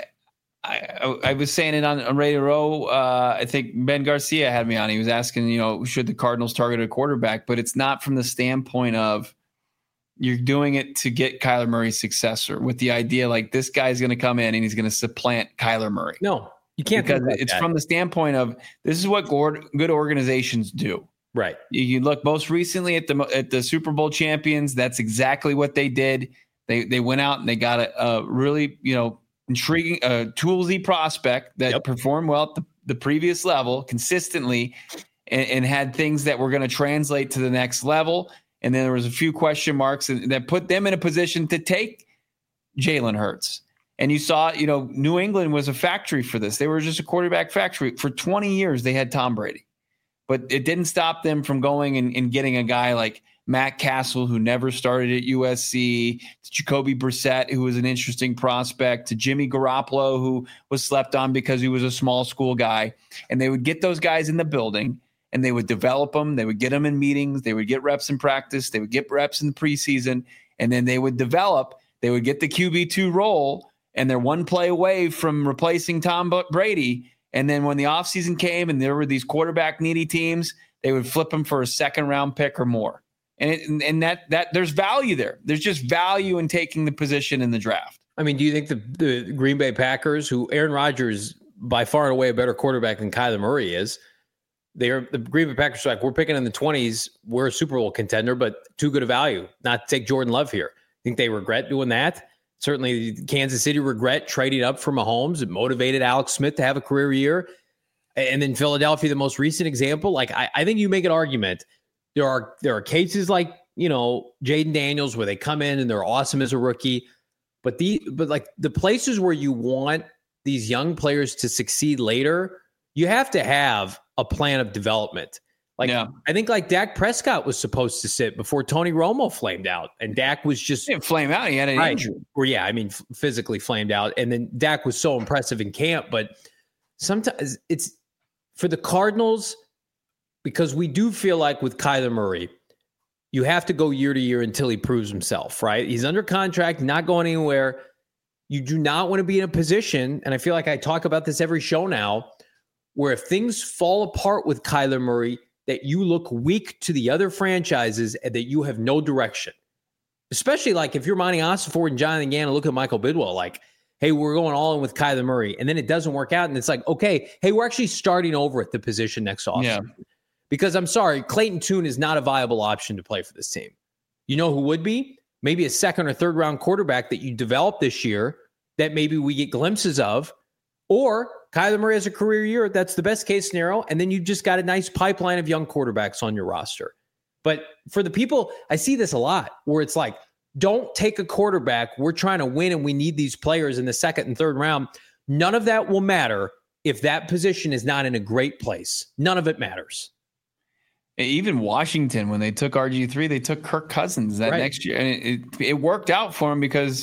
I was saying it on Radio Row. I think Ben Garcia had me on. He was asking, should the Cardinals target a quarterback? But it's not from the standpoint of you're doing it to get Kyler Murray's successor with the idea like this guy's going to come in and he's going to supplant Kyler Murray. No, you can't. Because it's from the standpoint of this is what good organizations do. Right. You look most recently at the Super Bowl champions. That's exactly what they did. They went out and they got a really, intriguing, toolsy prospect that performed well at the previous level consistently and had things that were going to translate to the next level. And then there was a few question marks that put them in a position to take Jalen Hurts. And you saw, New England was a factory for this. They were just a quarterback factory. For 20 years, they had Tom Brady. But it didn't stop them from going and getting a guy like Matt Castle, who never started at USC, to Jacoby Brissett, who was an interesting prospect, to Jimmy Garoppolo, who was slept on because he was a small school guy. And they would get those guys in the building, and they would develop them. They would get them in meetings. They would get reps in practice. They would get reps in the preseason. And then they would develop. They would get the QB2 role, and they're one play away from replacing Tom Brady. And then when the offseason came and there were these quarterback needy teams, they would flip them for a second round pick or more. And that there's value there. There's just value in taking the position in the draft. I mean, do you think the Green Bay Packers, who Aaron Rodgers by far and away a better quarterback than Kyler Murray is, the Green Bay Packers are like, we're picking in the 20s. We're a Super Bowl contender, but too good a value not to take Jordan Love here. Think they regret doing that? Certainly, Kansas City regret trading up for Mahomes. It motivated Alex Smith to have a career year. And then Philadelphia, the most recent example. Like, I think you make an argument. There are cases like, Jaden Daniels where they come in and they're awesome as a rookie. But like the places where you want these young players to succeed later, you have to have a plan of development. I think like Dak Prescott was supposed to sit before Tony Romo flamed out, and Dak was just he didn't flame out. He had an injury. Or physically flamed out, and then Dak was so impressive in camp. But sometimes it's for the Cardinals because we do feel like with Kyler Murray, you have to go year to year until he proves himself. Right? He's under contract, not going anywhere. You do not want to be in a position, and I feel like I talk about this every show now, where if things fall apart with Kyler Murray, that you look weak to the other franchises and that you have no direction. Especially like if you're Monty Ossenford and Jonathan Gannon, look at Michael Bidwell, like, hey, we're going all in with Kyler Murray. And then it doesn't work out. And it's like, okay, hey, we're actually starting over at the position next offseason. Yeah. Because I'm sorry, Clayton Tune is not a viable option to play for this team. You know who would be? Maybe a second or third round quarterback that you developed this year that maybe we get glimpses of, or Kyler Murray has a career year. That's the best case scenario. And then you've just got a nice pipeline of young quarterbacks on your roster. But for the people, I see this a lot where it's like, don't take a quarterback. We're trying to win and we need these players in the second and third round. None of that will matter if that position is not in a great place. None of it matters. Even Washington, when they took RG3, they took Kirk Cousins that next year. And it worked out for him because,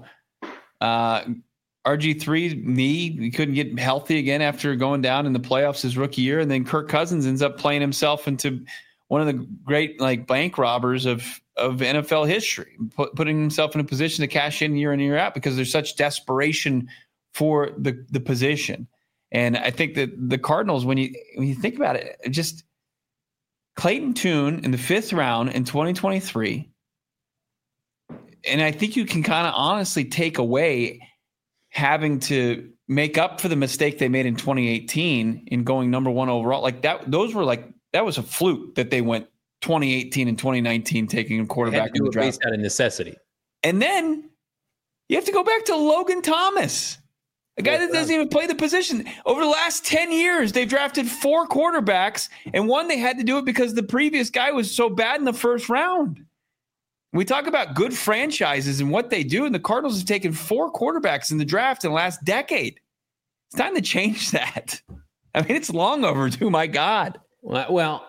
RG3 knee, he couldn't get healthy again after going down in the playoffs his rookie year. And then Kirk Cousins ends up playing himself into one of the great bank robbers of NFL history, putting himself in a position to cash in and year out because there's such desperation for the position. And I think that the Cardinals, when you think about it, just Clayton Tune in the 5th round in 2023. And I think you can kind of honestly take away having to make up for the mistake they made in 2018 in going number 1 overall. Like that was a fluke that they went 2018 and 2019 taking a quarterback in the draft. Based out of necessity. And then you have to go back to Logan Thomas, a guy that doesn't even play the position. Over the last 10 years, they've drafted 4 quarterbacks, and one they had to do it because the previous guy was so bad in the first round. We talk about good franchises and what they do, and the Cardinals have taken 4 quarterbacks in the draft in the last decade. It's time to change that. I mean, it's long overdue, my God. Well,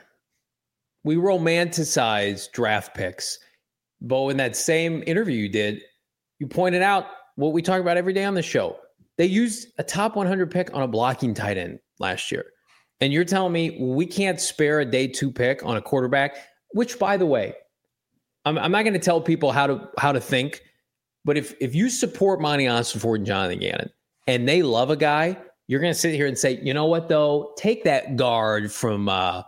we romanticize draft picks, but in that same interview you did, you pointed out what we talk about every day on the show. They used a top 100 pick on a blocking tight end last year. And you're telling me we can't spare a day 2 pick on a quarterback, which, by the way, I'm not going to tell people how to think, but if you support Monty Ossenfort and Jonathan Gannon and they love a guy, you're going to sit here and say, you know what, though? Take that guard from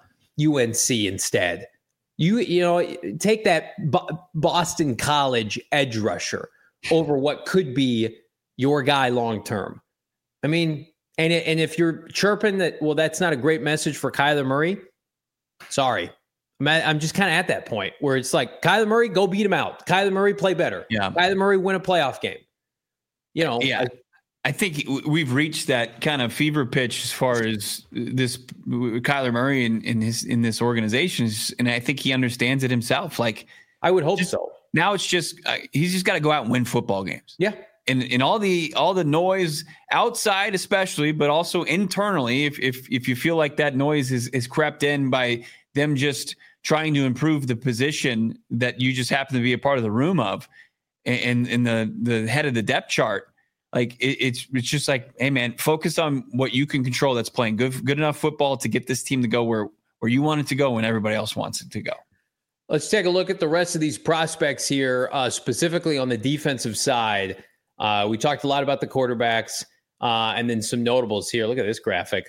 UNC instead. You know, take that Boston College edge rusher over what could be your guy long term. I mean, and if you're chirping that, well, that's not a great message for Kyler Murray, sorry. I'm just kind of at that point where it's like, Kyler Murray, go beat him out. Kyler Murray, play better. Yeah. Kyler Murray, win a playoff game. You know. Yeah. I think we've reached that kind of fever pitch as far as this Kyler Murray in this organization. And I think he understands it himself. Like, I would hope so. Now it's just, he's just got to go out and win football games. Yeah. And all the noise outside, especially, but also internally, if you feel like that noise is crept in by them just trying to improve the position that you just happen to be a part of the room of, and in the head of the depth chart, like it's just like, hey man, focus on what you can control. That's playing good enough football to get this team to go where you want it to go when everybody else wants it to go. Let's take a look at the rest of these prospects here, specifically on the defensive side. We talked a lot about the quarterbacks, and then some notables here. Look at this graphic.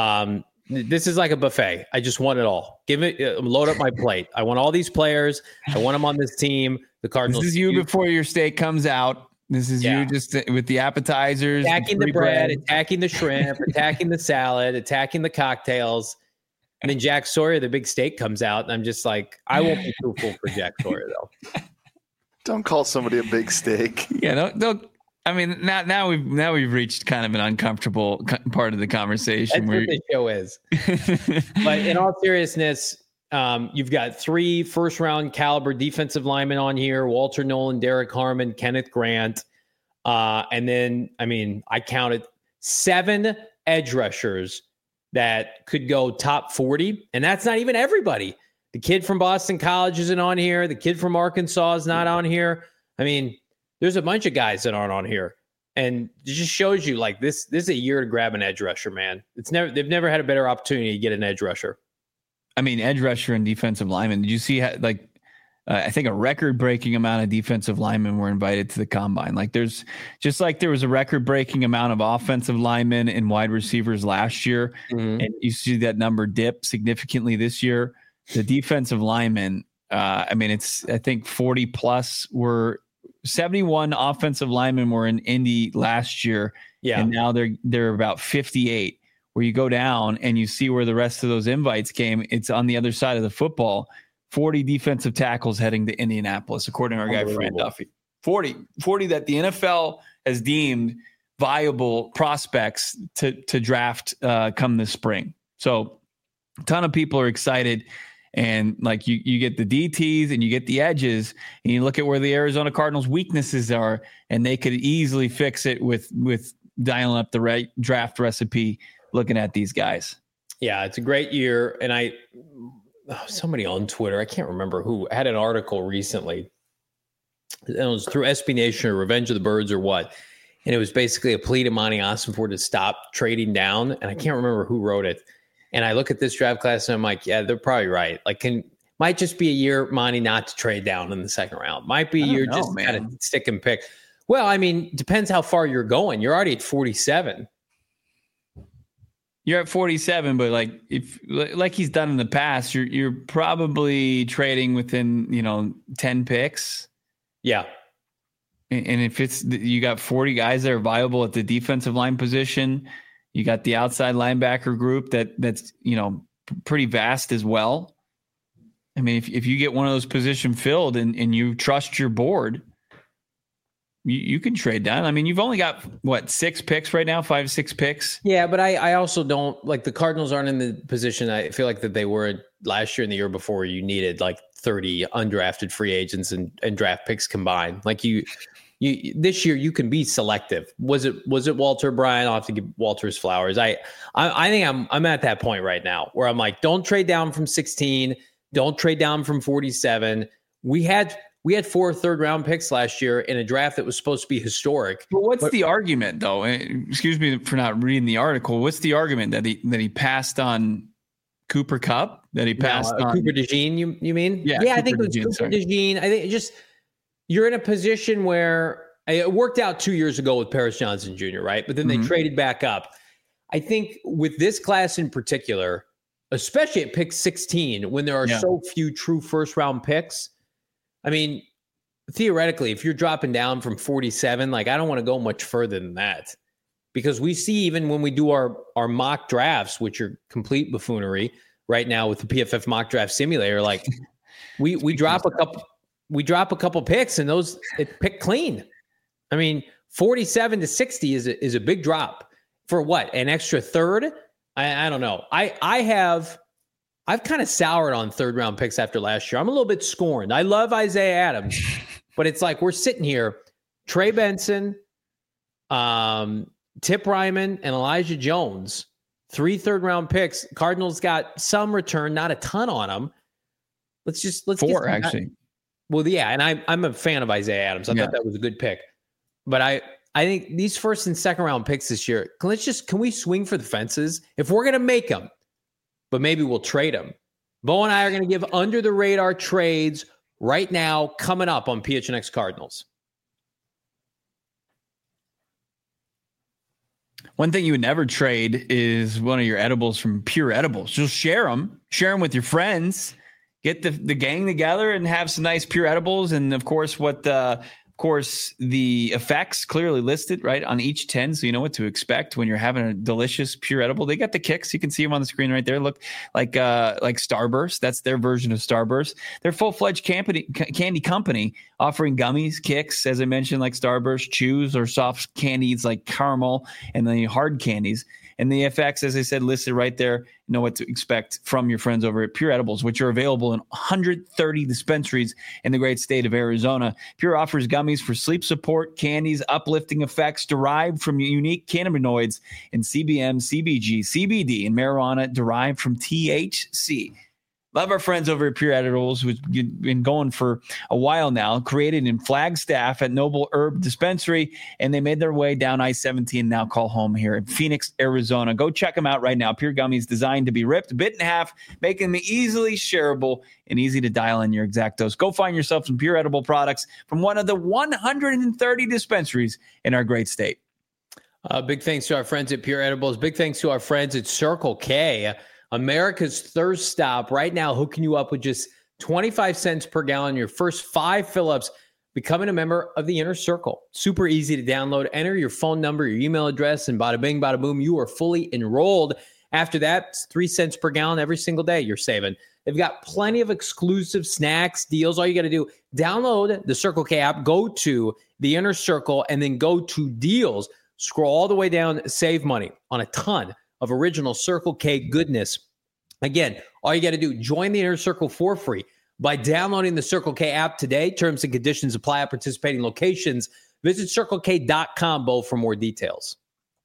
This is like a buffet. I just want it all. Load up my plate. I want all these players. I want them on this team. The Cardinals. This is you before your steak comes out. This is you just with the appetizers, attacking the bread, attacking the shrimp, attacking the salad, attacking the cocktails. And then Jack Sawyer, the big steak, comes out, and I'm just like, I won't be too full for Jack Sawyer though. Don't call somebody a big steak. Yeah, don't. I mean, now we've reached kind of an uncomfortable part of the conversation. That's what the show is. But in all seriousness, you've got 3 first-round caliber defensive linemen on here: Walter Nolan, Derek Harmon, Kenneth Grant, and then I counted 7 edge rushers that could go top 40, and that's not even everybody. The kid from Boston College isn't on here. The kid from Arkansas is not on here. I mean, there's a bunch of guys that aren't on here, and it just shows you like this is a year to grab an edge rusher, man. They've never had a better opportunity to get an edge rusher. I mean, edge rusher and defensive lineman. Did you see I think a record-breaking amount of defensive linemen were invited to the combine. Like there was a record-breaking amount of offensive linemen and wide receivers last year, and you see that number dip significantly this year. The defensive linemen, I think 40 plus were 71 offensive linemen were in Indy last year, and now they're about 58. Where you go down and you see where the rest of those invites came, it's on the other side of the football. 40 defensive tackles heading to Indianapolis, according to our guy, Fran Duffy. 40 that the NFL has deemed viable prospects to draft come this spring. So a ton of people are excited. And like you get the DTs and you get the edges, and you look at where the Arizona Cardinals' weaknesses are, and they could easily fix it with dialing up the right draft recipe looking at these guys. Yeah, it's a great year. And somebody on Twitter, I can't remember who, had an article recently. It was through SB Nation or Revenge of the Birds or what. And it was basically a plea to Monty Ossenfort to stop trading down. And I can't remember who wrote it. And I look at this draft class and I'm like, yeah, they're probably right. Like, might just be a year, Monty, not to trade down in the second round. Might be a year just kind of stick and pick. Well, I mean, depends how far you're going. You're already at 47. You're at 47, but like he's done in the past, you're probably trading within 10 picks. Yeah. And if you got 40 guys that are viable at the defensive line position, you got the outside linebacker group that's pretty vast as well. I mean, if you get one of those position filled and you trust your board, you can trade down. I mean, you've only got what 6 picks right now, 5-6 picks. Yeah, but I also don't like the Cardinals aren't in the position I feel like that they were last year and the year before. Where you needed like 30 undrafted free agents and draft picks combined. Like you this year you can be selective. Was it Walter Bryan? I'll have to give Walter his flowers. I think I'm at that point right now where I'm like, don't trade down from 16, don't trade down from 47. We had 4 third-round picks last year in a draft that was supposed to be historic. But what's the argument, though? Excuse me for not reading the article. What's the argument that he passed on Cooper Kupp? That he passed on Cooper DeJean? You mean? Yeah, I think it was Cooper DeJean. I think you're in a position where it worked out 2 years ago with Paris Johnson Jr., right? But then they traded back up. I think with this class in particular, especially at pick 16, when there are so few true first-round picks. I mean, theoretically, if you're dropping down from 47, like I don't want to go much further than that, because we see even when we do our mock drafts, which are complete buffoonery right now with the PFF mock draft simulator, like we drop a couple picks and those it pick clean. I mean, 47 to 60 is a big drop for what, an extra third? I don't know. I've kind of soured on third-round picks after last year. I'm a little bit scorned. I love Isaiah Adams, but it's like we're sitting here, Trey Benson, Tip Ryman, and Elijah Jones, 3 third-round picks. Cardinals got some return, not a ton on them. Let's 4 actually. Well, yeah, and I'm a fan of Isaiah Adams. I thought that was a good pick, but I think these first and second-round picks this year. Can we swing for the fences if we're gonna make them? But maybe we'll trade them. Bo and I are going to give under the radar trades right now coming up on PHNX Cardinals. One thing you would never trade is one of your edibles from Pure Edibles. Just share them with your friends, get the gang together and have some nice Pure Edibles. And of course, the effects clearly listed right on each 10. So you know what to expect when you're having a delicious Pure Edible. They got the kicks. You can see them on the screen right there. Look like Starburst. That's their version of Starburst. They're full-fledged candy company offering gummies, kicks, as I mentioned, like Starburst, chews, or soft candies like caramel, and the hard candies. And the effects, as I said, listed right there. You know what to expect from your friends over at Pure Edibles, which are available in 130 dispensaries in the great state of Arizona. Pure offers gummies for sleep support, candies, uplifting effects derived from unique cannabinoids in CBM, CBG, CBD, and marijuana derived from THC. Love our friends over at Pure Edibles, who's been going for a while now, created in Flagstaff at Noble Herb Dispensary, and they made their way down I-17, now call home here in Phoenix, Arizona. Go check them out right now. Pure Gummies designed to be ripped, bit in half, making them easily shareable and easy to dial in your exact dose. Go find yourself some Pure Edible products from one of the 130 dispensaries in our great state. Big thanks to our friends at Pure Edibles. Big thanks to our friends at Circle K. America's thirst stop right now, hooking you up with just 25 cents per gallon. Your first 5 fill-ups, becoming a member of the Inner Circle. Super easy to download. Enter your phone number, your email address, and bada bing, bada boom, you are fully enrolled. After that, it's 3 cents per gallon every single day you're saving. They've got plenty of exclusive snacks, deals. All you got to do, download the Circle K app, go to the Inner Circle, and then go to deals. Scroll all the way down, save money on a ton of original Circle K goodness. Again, all you got to do, join the Inner Circle for free by downloading the Circle K app today. Terms and conditions apply at participating locations. Visit CircleK.com, Bo, for more details.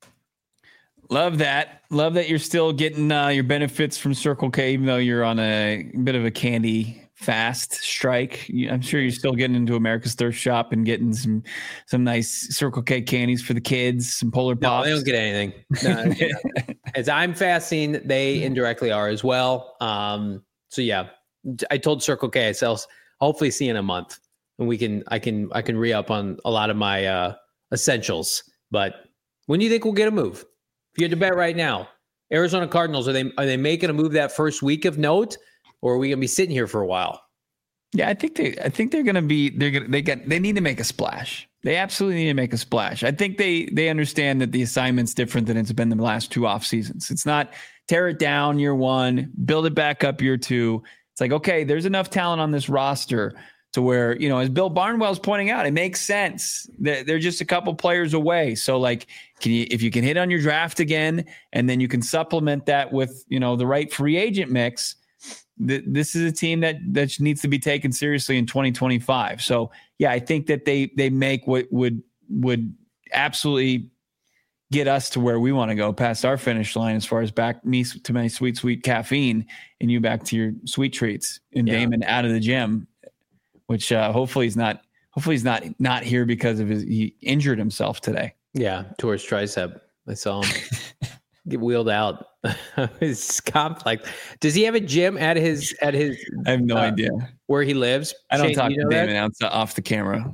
Love that. Love that you're still getting your benefits from Circle K, even though you're on a bit of a candy fast strike. I'm sure you're still getting into America's Thirst Shop and getting some nice Circle K candies for the kids, some Polar Pops. No, they don't get anything. No. As I'm fasting, they indirectly are as well. So yeah, I told Circle K, I'll hopefully see you in a month, and I can re-up on a lot of my essentials. But when do you think we'll get a move? If you had to bet right now, Arizona Cardinals, are they making a move that first week of note? Or are we gonna be sitting here for a while? Yeah, I think they're gonna be. They need to make a splash. They absolutely need to make a splash. I think they understand that the assignment's different than it's been the last 2 off seasons. It's not tear it down year 1, build it back up year 2. It's like, okay, there's enough talent on this roster to where, as Bill Barnwell's pointing out, it makes sense. They're just a couple players away. So like, if you can hit on your draft again, and then you can supplement that with, the right free agent mix, this is a team that needs to be taken seriously in 2025. So yeah, I think that they make what would absolutely get us to where we want to go, past our finish line, as far as back me to my sweet caffeine and you back to your sweet treats, and Damon out of the gym, which hopefully he's not here because of he injured himself today. Yeah, tore his tricep. I saw him get wheeled out. His complex. Does he have a gym at his? I have no idea where he lives. I don't talk to Damon off the camera.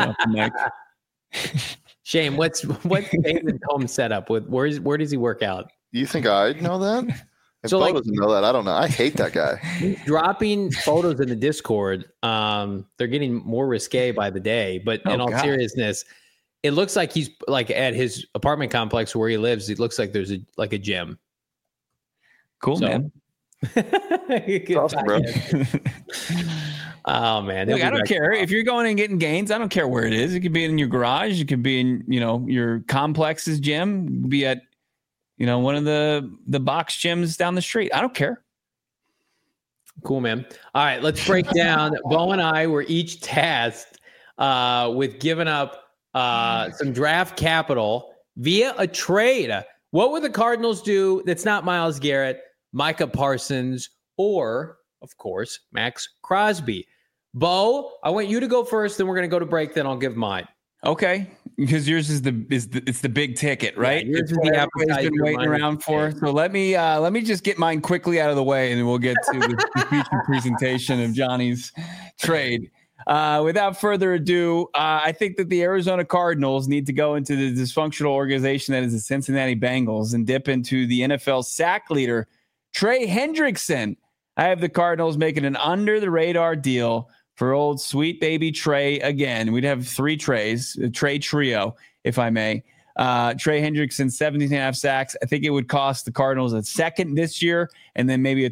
Shane, what's David's home setup with? Where does he work out? You think I'd know that? If Bo doesn't know that, I don't know. I hate that guy. He's dropping photos in the Discord. They're getting more risque by the day. But in all seriousness, it looks like he's like at his apartment complex where he lives. It looks like there's a gym. Cool, man. Awesome, bro. Oh man, look, I don't care if you're going and getting gains. I don't care where it is. It could be in your garage. It could be in your complex's gym. It could be at one of the box gyms down the street. I don't care. Cool, man. All right, let's break down. Bo and I were each tasked with giving up some draft capital via a trade. What would the Cardinals do that's not Myles Garrett, Micah Parsons, or, of course, Max Crosby? Bo, I want you to go first, then we're going to go to break, then I'll give mine. Okay, because yours is the big ticket, right? Yeah, yours is the appetizer been waiting around for. So let me just get mine quickly out of the way, and then we'll get to the feature presentation of Johnny's trade. Without further ado, I think that the Arizona Cardinals need to go into the dysfunctional organization that is the Cincinnati Bengals and dip into the NFL sack leader, Trey Hendrickson. I have the Cardinals making an under-the-radar deal for old sweet baby Trey again. We'd have 3 Treys, a Trey trio, if I may. Trey Hendrickson, 17.5 sacks. I think it would cost the Cardinals a second this year, and then maybe a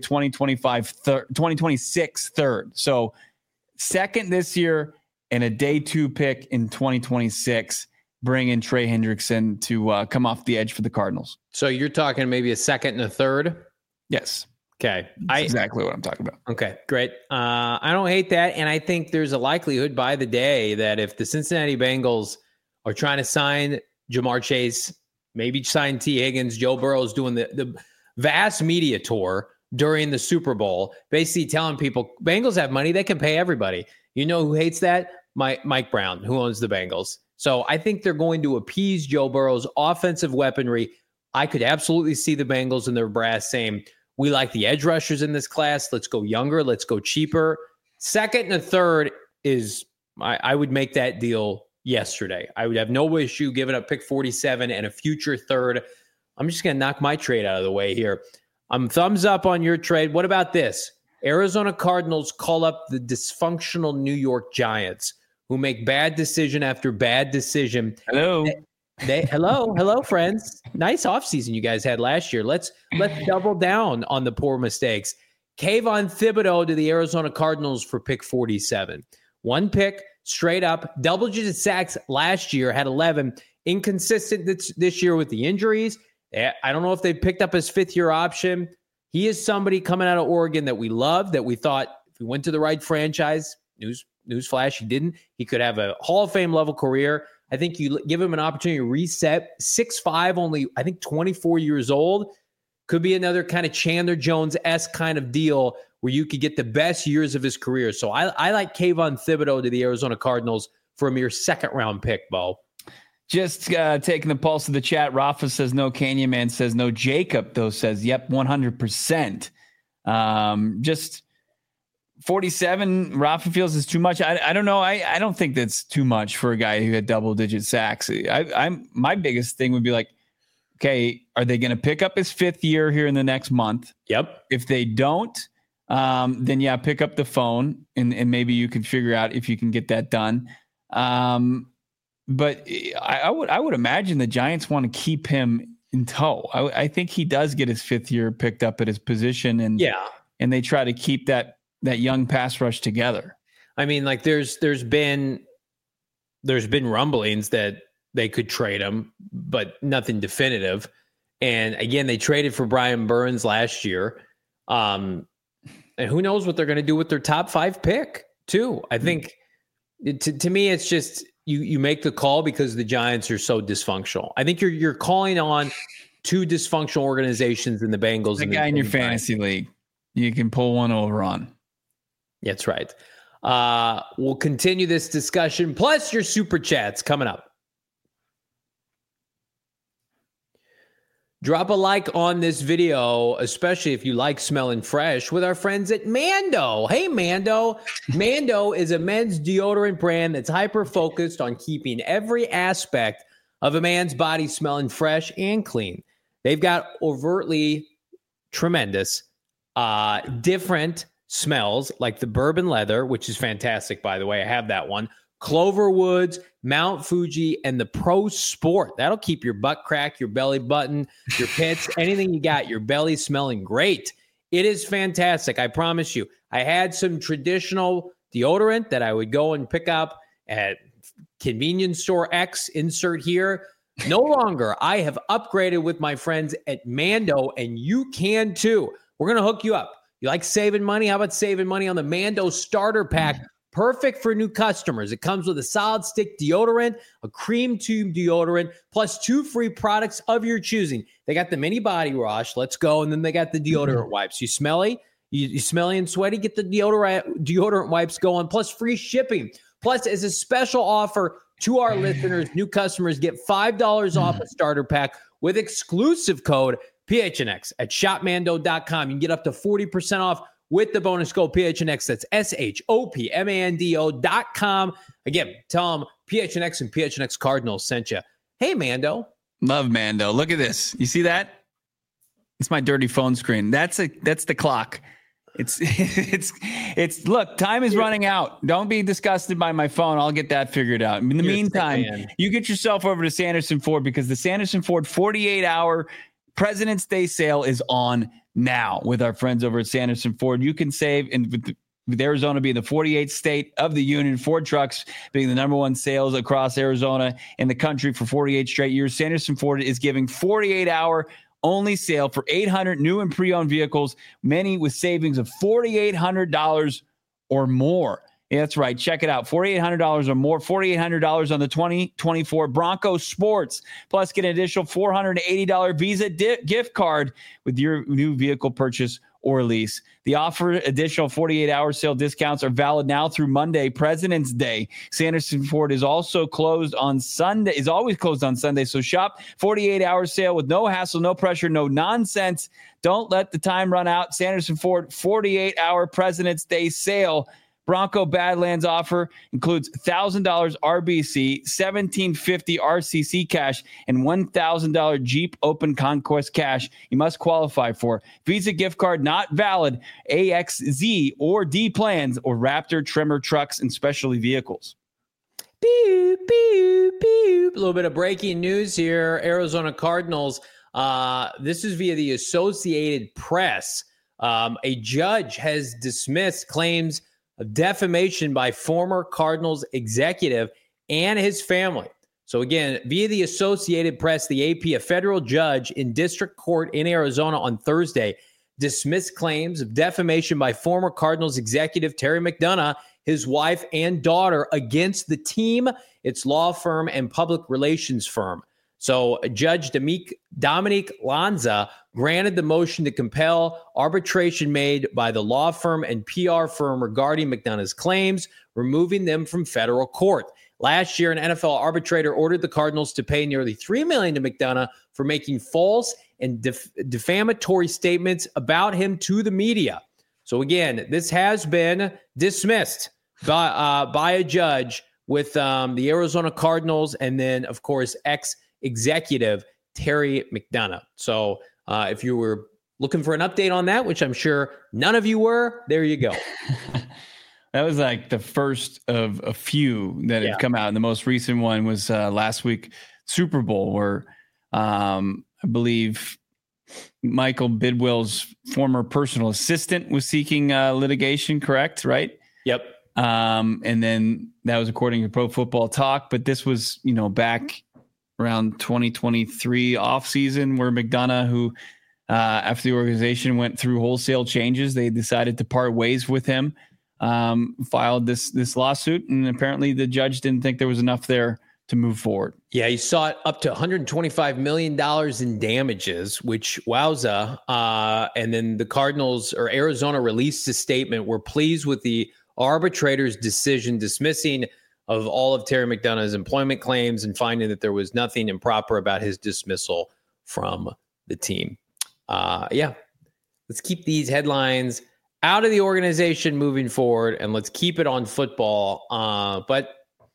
2026 third. So second this year and a day 2 pick in 2026. Bring in Trey Hendrickson to come off the edge for the Cardinals. So you're talking maybe a second and a third? Yes. Okay. That's exactly what I'm talking about. Okay, great. I don't hate that. And I think there's a likelihood by the day that if the Cincinnati Bengals are trying to sign Jamar Chase, maybe sign T. Higgins, Joe Burrow's doing the vast media tour during the Super Bowl, basically telling people Bengals have money, they can pay everybody. You know who hates that? Mike Brown, who owns the Bengals. So I think they're going to appease Joe Burrow's offensive weaponry. I could absolutely see the Bengals and their brass saying, we like the edge rushers in this class. Let's go younger. Let's go cheaper. Second and a third is, I would make that deal yesterday. I would have no issue giving up pick 47 and a future third. I'm just going to knock my trade out of the way here. I'm thumbs up on your trade. What about this? Arizona Cardinals call up the dysfunctional New York Giants, who make bad decision after bad decision. Hello. Hello, friends. Nice offseason you guys had last year. Let's double down on the poor mistakes. Kayvon Thibodeau to the Arizona Cardinals for pick 47. 1 pick, straight up, double-digit sacks last year, had 11. Inconsistent this year with the injuries. I don't know if they picked up his 5th-year option. He is somebody coming out of Oregon that we love, that we thought if he went to the right franchise, newsflash, he didn't. He could have a Hall of Fame level career. I think you give him an opportunity to reset. 6'5", only, I think, 24 years old. Could be another kind of Chandler Jones-esque kind of deal where you could get the best years of his career. So I like Kayvon Thibodeau to the Arizona Cardinals for a mere 2nd-round pick, Bo. Just taking the pulse of the chat. Rafa says no. Canyon Man says no. Jacob, though, says, yep, 100%. Just 47, Rafa feels is too much. I don't know. I don't think that's too much for a guy who had double-digit sacks. My biggest thing would be like, okay, are they going to pick up his 5th year here in the next month? Yep. If they don't, then yeah, pick up the phone and maybe you can figure out if you can get that done. But I would imagine the Giants want to keep him in tow. I think he does get his 5th year picked up at his position, and they try to keep that young pass rush together. I mean, like there's been rumblings that they could trade him, but nothing definitive. And again, they traded for Brian Burns last year. And who knows what they're going to do with their top 5 pick too. I think to me, it's just, you make the call because the Giants are so dysfunctional. I think you're calling on 2 dysfunctional organizations in the Bengals. The guy in your fantasy league, you can pull one over on. That's right. We'll continue this discussion, plus your super chats coming up. Drop a like on this video, especially if you like smelling fresh, with our friends at Mando. Hey, Mando. Mando is a men's deodorant brand that's hyper-focused on keeping every aspect of a man's body smelling fresh and clean. They've got overtly tremendous, different smells like the bourbon leather, which is fantastic, by the way. I have that one. Clover Woods, Mount Fuji, and the Pro Sport. That'll keep your butt crack, your belly button, your pits, anything you got, your belly smelling great. It is fantastic. I promise you. I had some traditional deodorant that I would go and pick up at convenience store X, insert here. No longer. I have upgraded with my friends at Mando, and you can too. We're going to hook you up. You like saving money? How about saving money on the Mando starter pack? Perfect for new customers. It comes with a solid stick deodorant, a cream tube deodorant, plus 2 free products of your choosing. They got the mini body wash. Let's go. And then they got the deodorant wipes. You smelly? You smelly and sweaty? Get the deodorant wipes going, plus free shipping. Plus, as a special offer to our listeners, new customers get $5 off a starter pack with exclusive code PHNX at shopmando.com. You can get up to 40% off with the bonus code PHNX. That's SHOPMANDO.com. Again, tell them PHNX and PHNX Cardinals sent you. Hey, Mando. Love Mando. Look at this. You see that? It's my dirty phone screen. That's the clock. It's look, time is running out. Don't be disgusted by my phone. I'll get that figured out. In the meantime, you get yourself over to Sanderson Ford, because the Sanderson Ford 48-hour President's Day sale is on now with our friends over at Sanderson Ford. You can save, and with Arizona being the 48th state of the union, Ford trucks being the number 1 sales across Arizona and the country for 48 straight years, Sanderson Ford is giving 48-hour only sale for 800 new and pre-owned vehicles, many with savings of $4,800 or more. Yeah, that's right. Check it out. $4,800 or more. $4,800 on the 2024 Bronco Sports. Plus, get an additional $480 Visa gift card with your new vehicle purchase or lease. The offer additional 48-hour sale discounts are valid now through Monday, President's Day. Sanderson Ford is also closed on Sunday, is always closed on Sunday. So shop 48-hour sale with no hassle, no pressure, no nonsense. Don't let the time run out. Sanderson Ford 48-hour President's Day sale. Bronco Badlands offer includes $1,000 RBC, $1,750 RCC cash, and $1,000 Jeep Open Conquest cash. You must qualify for Visa gift card not valid, AXZ or D plans, or Raptor Tremor trucks and specialty vehicles. Beep, beep, beep. A little bit of breaking news here. Arizona Cardinals. This is via the Associated Press. A judge has dismissed claims of defamation by former Cardinals executive and his family. So again, via the Associated Press, the AP, a federal judge in district court in Arizona on Thursday dismissed claims of defamation by former Cardinals executive Terry McDonough, his wife and daughter, against the team, its law firm, and public relations firm. So Judge Dominique Lanza granted the motion to compel arbitration made by the law firm and PR firm regarding McDonough's claims, removing them from federal court. Last year, an NFL arbitrator ordered the Cardinals to pay nearly $3 million to McDonough for making false and defamatory statements about him to the media. So again, this has been dismissed by a judge with the Arizona Cardinals, and then, of course, ex-executive Terry McDonough. So if you were looking for an update on that, which I'm sure none of you were, there you go. That was like the first of a few that have come out. And the most recent one was last week, Super Bowl, where I believe Michael Bidwill's former personal assistant was seeking litigation, correct? Right? Yep. And then that was according to Pro Football Talk. But this was, back around 2023 offseason where McDonough, who after the organization went through wholesale changes, they decided to part ways with him, filed this lawsuit. And apparently the judge didn't think there was enough there to move forward. Yeah, he sought up to $125 million in damages, which wowza. And then the Cardinals or Arizona released a statement. We're pleased with the arbitrator's decision dismissing of all of Terry McDonough's employment claims and finding that there was nothing improper about his dismissal from the team. Let's keep these headlines out of the organization moving forward, and let's keep it on football. But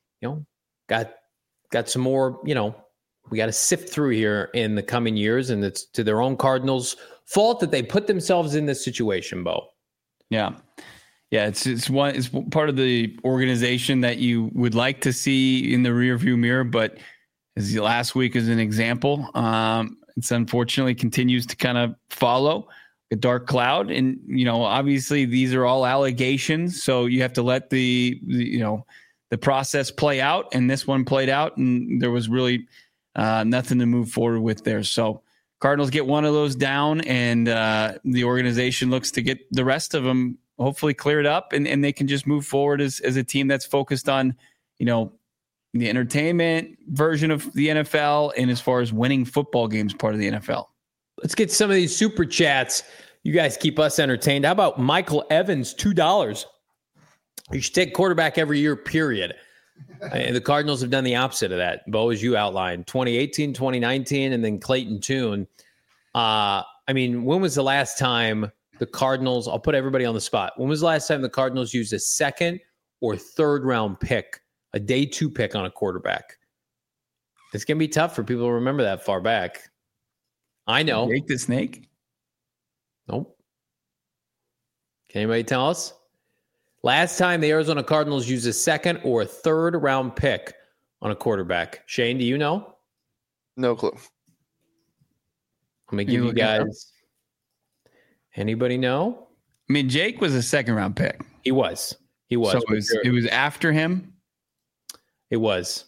got some more, we got to sift through here in the coming years, and it's to their own Cardinals' fault that they put themselves in this situation, Bo. Yeah. Yeah, it's part of the organization that you would like to see in the rearview mirror, but as last week is an example, it's unfortunately continues to kind of follow a dark cloud. And, obviously these are all allegations, so you have to let the process play out, and this one played out, and there was really nothing to move forward with there. So Cardinals get one of those down, and the organization looks to get the rest of them hopefully cleared up, and they can just move forward as a team that's focused on, the entertainment version of the NFL, and as far as winning football games, part of the NFL. Let's get some of these super chats. You guys keep us entertained. How about Michael Evans, $2? You should take quarterback every year, period. And the Cardinals have done the opposite of that, Bo, as you outlined. 2018, 2019, and then Clayton Tune. When was the last time the Cardinals, I'll put everybody on the spot. When was the last time the Cardinals used a second or third round pick, a day 2 pick on a quarterback? It's going to be tough for people to remember that far back. I know. Jake the Snake? Nope. Can anybody tell us? Last time the Arizona Cardinals used a second or third round pick on a quarterback. Shane, do you know? No clue. Let me give you guys. Anybody know? Jake was a second round pick. He was. So it was after him? It was.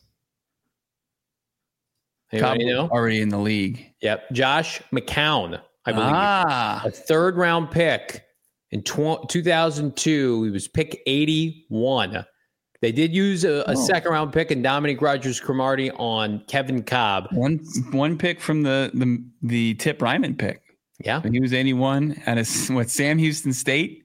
Anybody know? Already in the league. Yep. Josh McCown, I believe. A third round pick. In 2002, he was pick 81. They did use a second round pick in Dominique Rodgers-Cromartie on Kevin Cobb. One pick from the Tip Ryman pick. Yeah. He was 81 at Sam Houston State?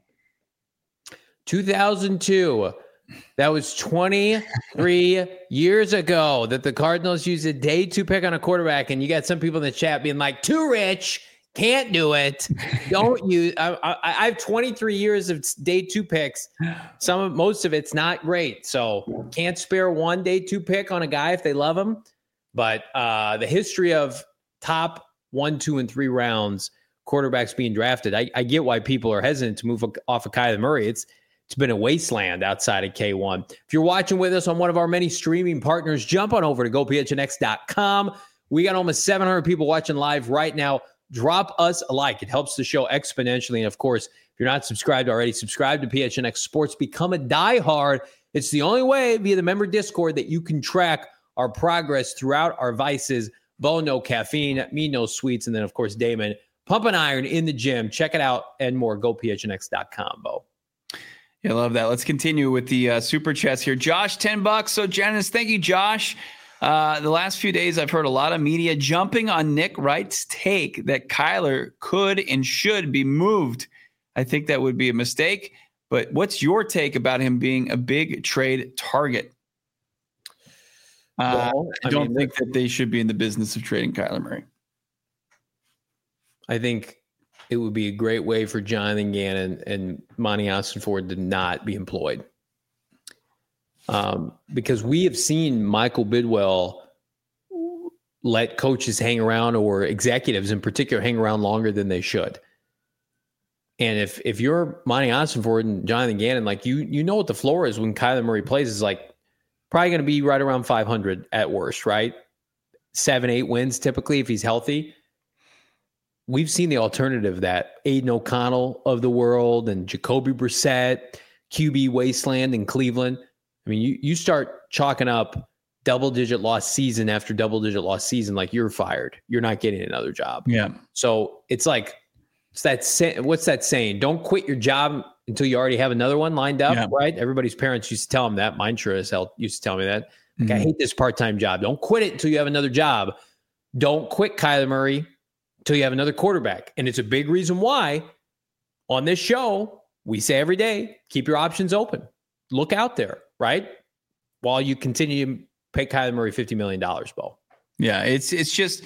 2002. That was 23 years ago that the Cardinals used a day 2 pick on a quarterback. And you got some people in the chat being like, too rich. Can't do it. Don't use. I have 23 years of day 2 picks. Most of it's not great. So can't spare one day 2 pick on a guy if they love him. But the history of top 1, 2, and 3 rounds quarterbacks being drafted, I get why people are hesitant to move off of Kyler Murray. It's been a wasteland outside of K1. If you're watching with us on one of our many streaming partners, jump on over to gophnx.com. We got almost 700 people watching live right now. Drop us a like. It helps the show exponentially. And of course, if you're not subscribed already, subscribe to PHNX Sports. Become a diehard. It's the only way via the member Discord that you can track our progress throughout our vices. Bo, no caffeine. Me, no sweets. And then, of course, Damon, pumping iron in the gym. Check it out and more. GoPHNX.com, Bo. Yeah, I love that. Let's continue with the super chats here. Josh, $10. So, Janice, thank you, Josh. The last few days, I've heard a lot of media jumping on Nick Wright's take that Kyler could and should be moved. I think that would be a mistake. But what's your take about him being a big trade target? I don't think that they should be in the business of trading Kyler Murray. I think it would be a great way for Jonathan Gannon and Monty Ossenford to not be employed. Because we have seen Michael Bidwell let coaches hang around, or executives in particular hang around longer than they should. And if you're Monty Ossenford and Jonathan Gannon, like you know what the floor is when Kyler Murray plays is like probably going to be right around 500 at worst, right? 7-8 wins typically if he's healthy. We've seen the alternative that Aiden O'Connell of the world and Jacoby Brissett QB wasteland in Cleveland. I mean, you start chalking up double-digit loss season after double-digit loss season, like you're fired. You're not getting another job. Yeah. So it's like, what's that saying? Don't quit your job until you already have another one lined up, right? Everybody's parents used to tell them that. Mine sure as hell used to tell me that. Like, I hate this part-time job. Don't quit it until you have another job. Don't quit Kyler Murray until you have another quarterback. And it's a big reason why on this show, we say every day, keep your options open. Look out there, right? While you continue to pay Kyler Murray $50 million, Bo. Yeah, it's just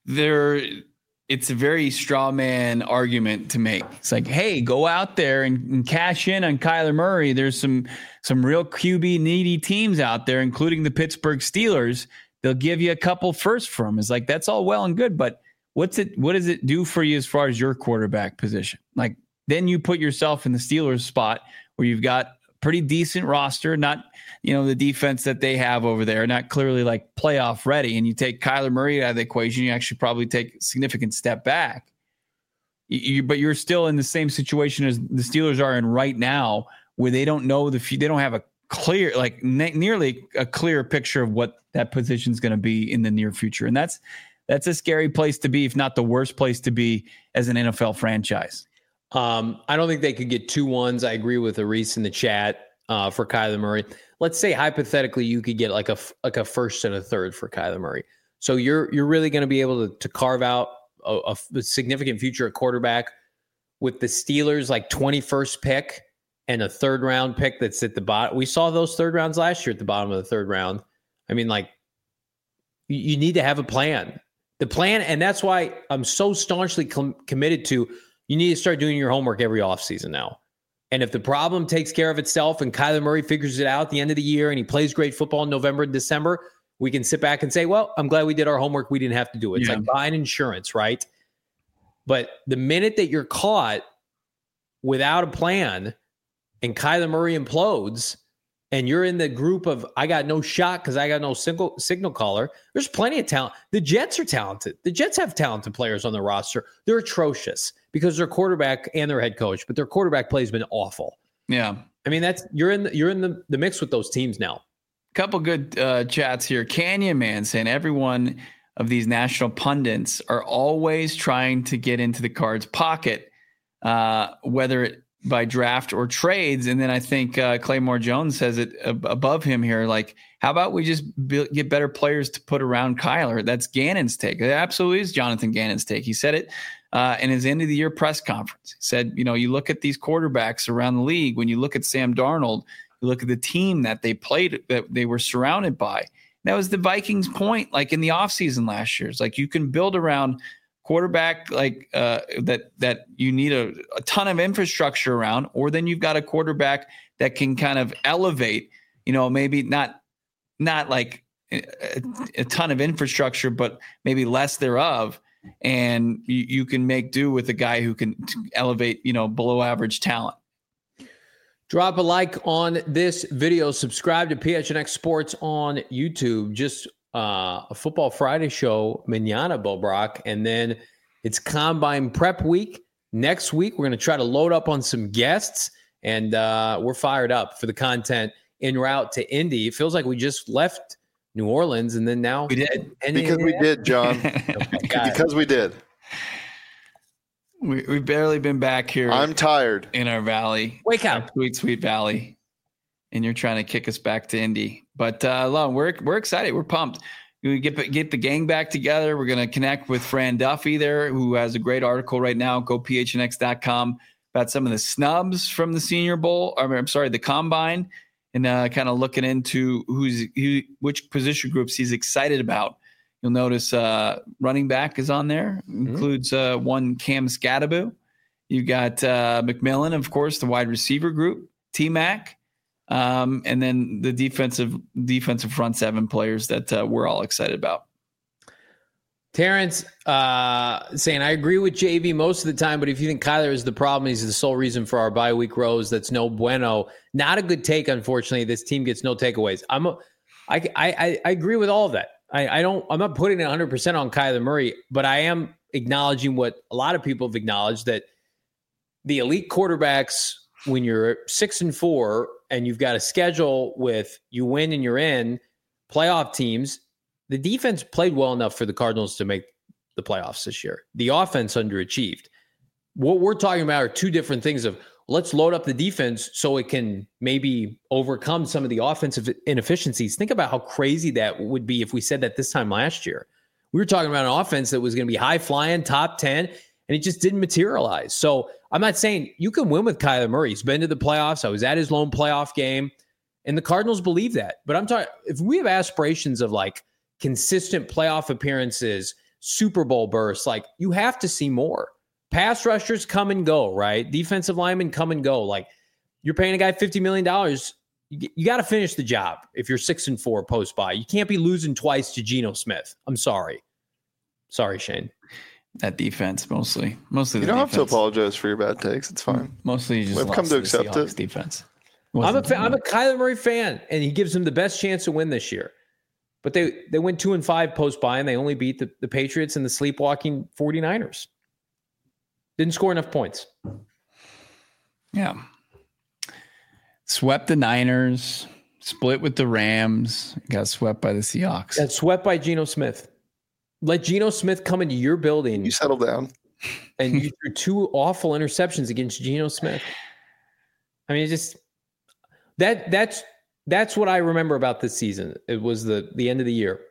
it's a very straw man argument to make. It's like, hey, go out there and cash in on Kyler Murray. There's some real QB needy teams out there, including the Pittsburgh Steelers. They'll give you a couple first for him. It's like, that's all well and good, but what does it do for you as far as your quarterback position? Like, then you put yourself in the Steelers spot where you've got pretty decent roster, not, the defense that they have over there, not clearly like playoff ready. And you take Kyler Murray out of the equation, you actually probably take a significant step back. But you're still in the same situation as the Steelers are in right now, where they don't know they don't have a clear, like nearly a clear picture of what that position is going to be in the near future. And that's a scary place to be, if not the worst place to be as an NFL franchise. I don't think they could get 2 1s. I agree with Aris in the chat for Kyler Murray. Let's say hypothetically you could get like a first and a third for Kyler Murray. So you're really going to be able to carve out a significant future at quarterback with the Steelers like 21st pick and a third round pick that's at the bottom. We saw those third rounds last year at the bottom of the third round. I mean, like, you need to have a plan. The plan, and that's why I'm so staunchly committed to, you need to start doing your homework every offseason now. And if the problem takes care of itself and Kyler Murray figures it out at the end of the year and he plays great football in November and December, we can sit back and say, well, I'm glad we did our homework. We didn't have to do it. It's like buying insurance, right? But the minute that you're caught without a plan and Kyler Murray implodes and you're in the group of, I got no shot because I got no signal caller, there's plenty of talent. The Jets are talented. The Jets have talented players on their roster. They're atrocious because their quarterback and their head coach, but their quarterback play has been awful. Yeah. I mean, you're in the mix with those teams now. Couple good chats here. Canyon Man saying everyone of these national pundits are always trying to get into the Cards' pocket, whether it by draft or trades. And then I think Claymore Jones says it above him here. Like, how about we just get better players to put around Kyler? That's Gannon's take. It absolutely is Jonathan Gannon's take. He said it in his end of the year press conference. He said, you look at these quarterbacks around the league. When you look at Sam Darnold, you look at the team that they played, that they were surrounded by. That was the Vikings' point, like in the offseason last year. It's like you can build around quarterback like that you need a ton of infrastructure around, or then you've got a quarterback that can kind of elevate, maybe not like a ton of infrastructure, but maybe less thereof. And you can make do with a guy who can elevate, below average talent. Drop a like on this video. Subscribe to PHNX Sports on YouTube. Just a Football Friday show, Manana Bo Brock. And then it's Combine Prep Week. Next week, we're going to try to load up on some guests. And we're fired up for the content en route to Indy. It feels like we just left New Orleans, and then now we did. Because we did, John. Because we did. We've barely been back here. I'm tired. In our valley. Wake up. Sweet valley. And you're trying to kick us back to Indy. But we're excited. We're pumped. We get the gang back together. We're going to connect with Fran Duffy there, who has a great article right now. Go phnx.com about some of the snubs from the Senior Bowl. The Combine, and kind of looking into which position groups he's excited about. You'll notice running back is on there. Includes one Cam Scadaboo. You got McMillan, of course, the wide receiver group, T-Mac, and then the defensive front seven players that we're all excited about. Terrence saying, I agree with JV most of the time, but if you think Kyler is the problem, he's the sole reason for our bye week rows. That's no bueno. Not a good take, unfortunately. This team gets no takeaways. I agree with all of that. I'm not putting it 100% on Kyler Murray, but I am acknowledging what a lot of people have acknowledged, that the elite quarterbacks when you're 6-4 and you've got a schedule with you win and you're in playoff teams, the defense played well enough for the Cardinals to make the playoffs this year. The offense underachieved. What we're talking about are two different things of let's load up the defense so it can maybe overcome some of the offensive inefficiencies. Think about how crazy that would be if we said that this time last year. We were talking about an offense that was going to be high flying, top 10, and it just didn't materialize. So I'm not saying you can win with Kyler Murray. He's been to the playoffs. I was at his lone playoff game, and the Cardinals believe that. But I'm talking, if we have aspirations of like consistent playoff appearances, Super Bowl bursts, like you have to see more. Pass rushers come and go, right? Defensive linemen come and go. Like you're paying a guy $50 million. You got to finish the job if you're 6-4 post-bye. You can't be losing twice to Geno Smith. I'm sorry. Sorry, Shane. That defense, mostly. You don't have to apologize for your bad takes. It's fine. Mostly you just we've come to accept it. Defense. I'm a Kyler Murray fan, and he gives them the best chance to win this year. But they went 2-5 post-bye, and they only beat the Patriots and the sleepwalking 49ers. Didn't score enough points. Yeah. Swept the Niners, split with the Rams, got swept by the Seahawks. Got swept by Geno Smith. Let Geno Smith come into your building. You settle down. And you threw two awful interceptions against Geno Smith. I mean, just that's what I remember about this season. It was the end of the year.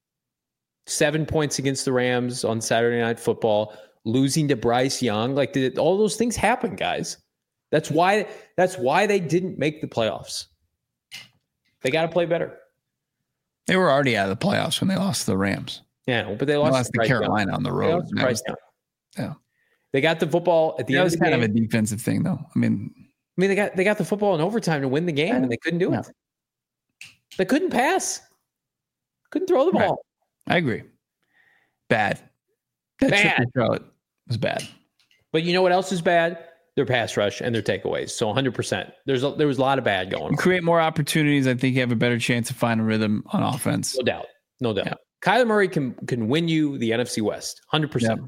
7 points against the Rams on Saturday Night Football, losing to Bryce Young. Like all those things happen, guys. That's why they didn't make the playoffs. They got to play better. They were already out of the playoffs when they lost to the Rams. Yeah, but they lost to Carolina on the road. Yeah, they got the football at the end. That was kind of a defensive thing, though. I mean, they got the football in overtime to win the game, and they couldn't do it. They couldn't pass, couldn't throw the ball. I agree. Bad. That trip to Charlotte was bad. But you know what else is bad? Their pass rush and their takeaways. So 100%. There was a lot of bad going on. You create more opportunities. I think you have a better chance to find a rhythm on offense. No doubt. Yeah. Kyler Murray can win you the NFC West. 100%. Yep.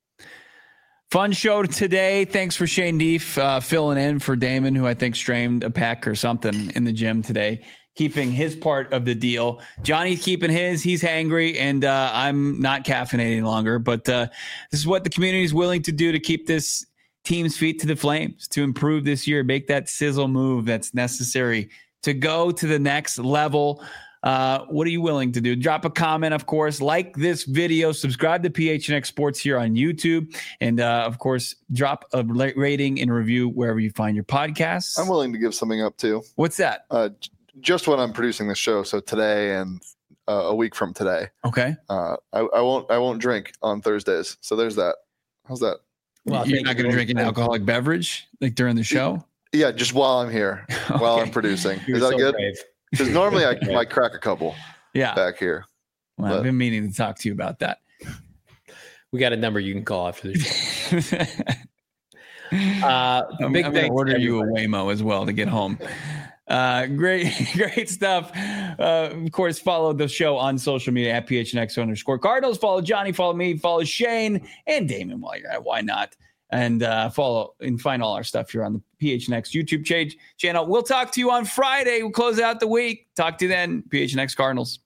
Fun show today. Thanks for Shane Deef filling in for Damon, who I think strained a pec or something in the gym today, keeping his part of the deal. Johnny's keeping his. He's hangry, and I'm not caffeinating any longer. But this is what the community is willing to do to keep this team's feet to the flames, to improve this year, make that sizzle move that's necessary to go to the next level. What are you willing to do? Drop a comment, of course, like this video, subscribe to PHNX Sports here on YouTube, and of course, drop a rating and review wherever you find your podcasts. I'm willing to give something up too. What's that? Just when I'm producing this show, so today and a week from today. Okay. I won't drink on Thursdays. So there's that. How's that? Well, you're not going to drink an alcoholic beverage like during the show? Yeah, just while I'm here, while I'm producing. Is that good? Because normally I might crack a couple. back here. Well, I've been meaning to talk to you about that. We got a number you can call after the show. I'm going to order you a Waymo as well to get home. Great stuff. Of course, follow the show on social media at PHNX_Cardinals. Follow Johnny, follow me, follow Shane and Damon while you're at. Why not? And follow and find all our stuff here on the PHNX YouTube channel. We'll talk to you on Friday. We'll close out the week. Talk to you then, PHNX Cardinals.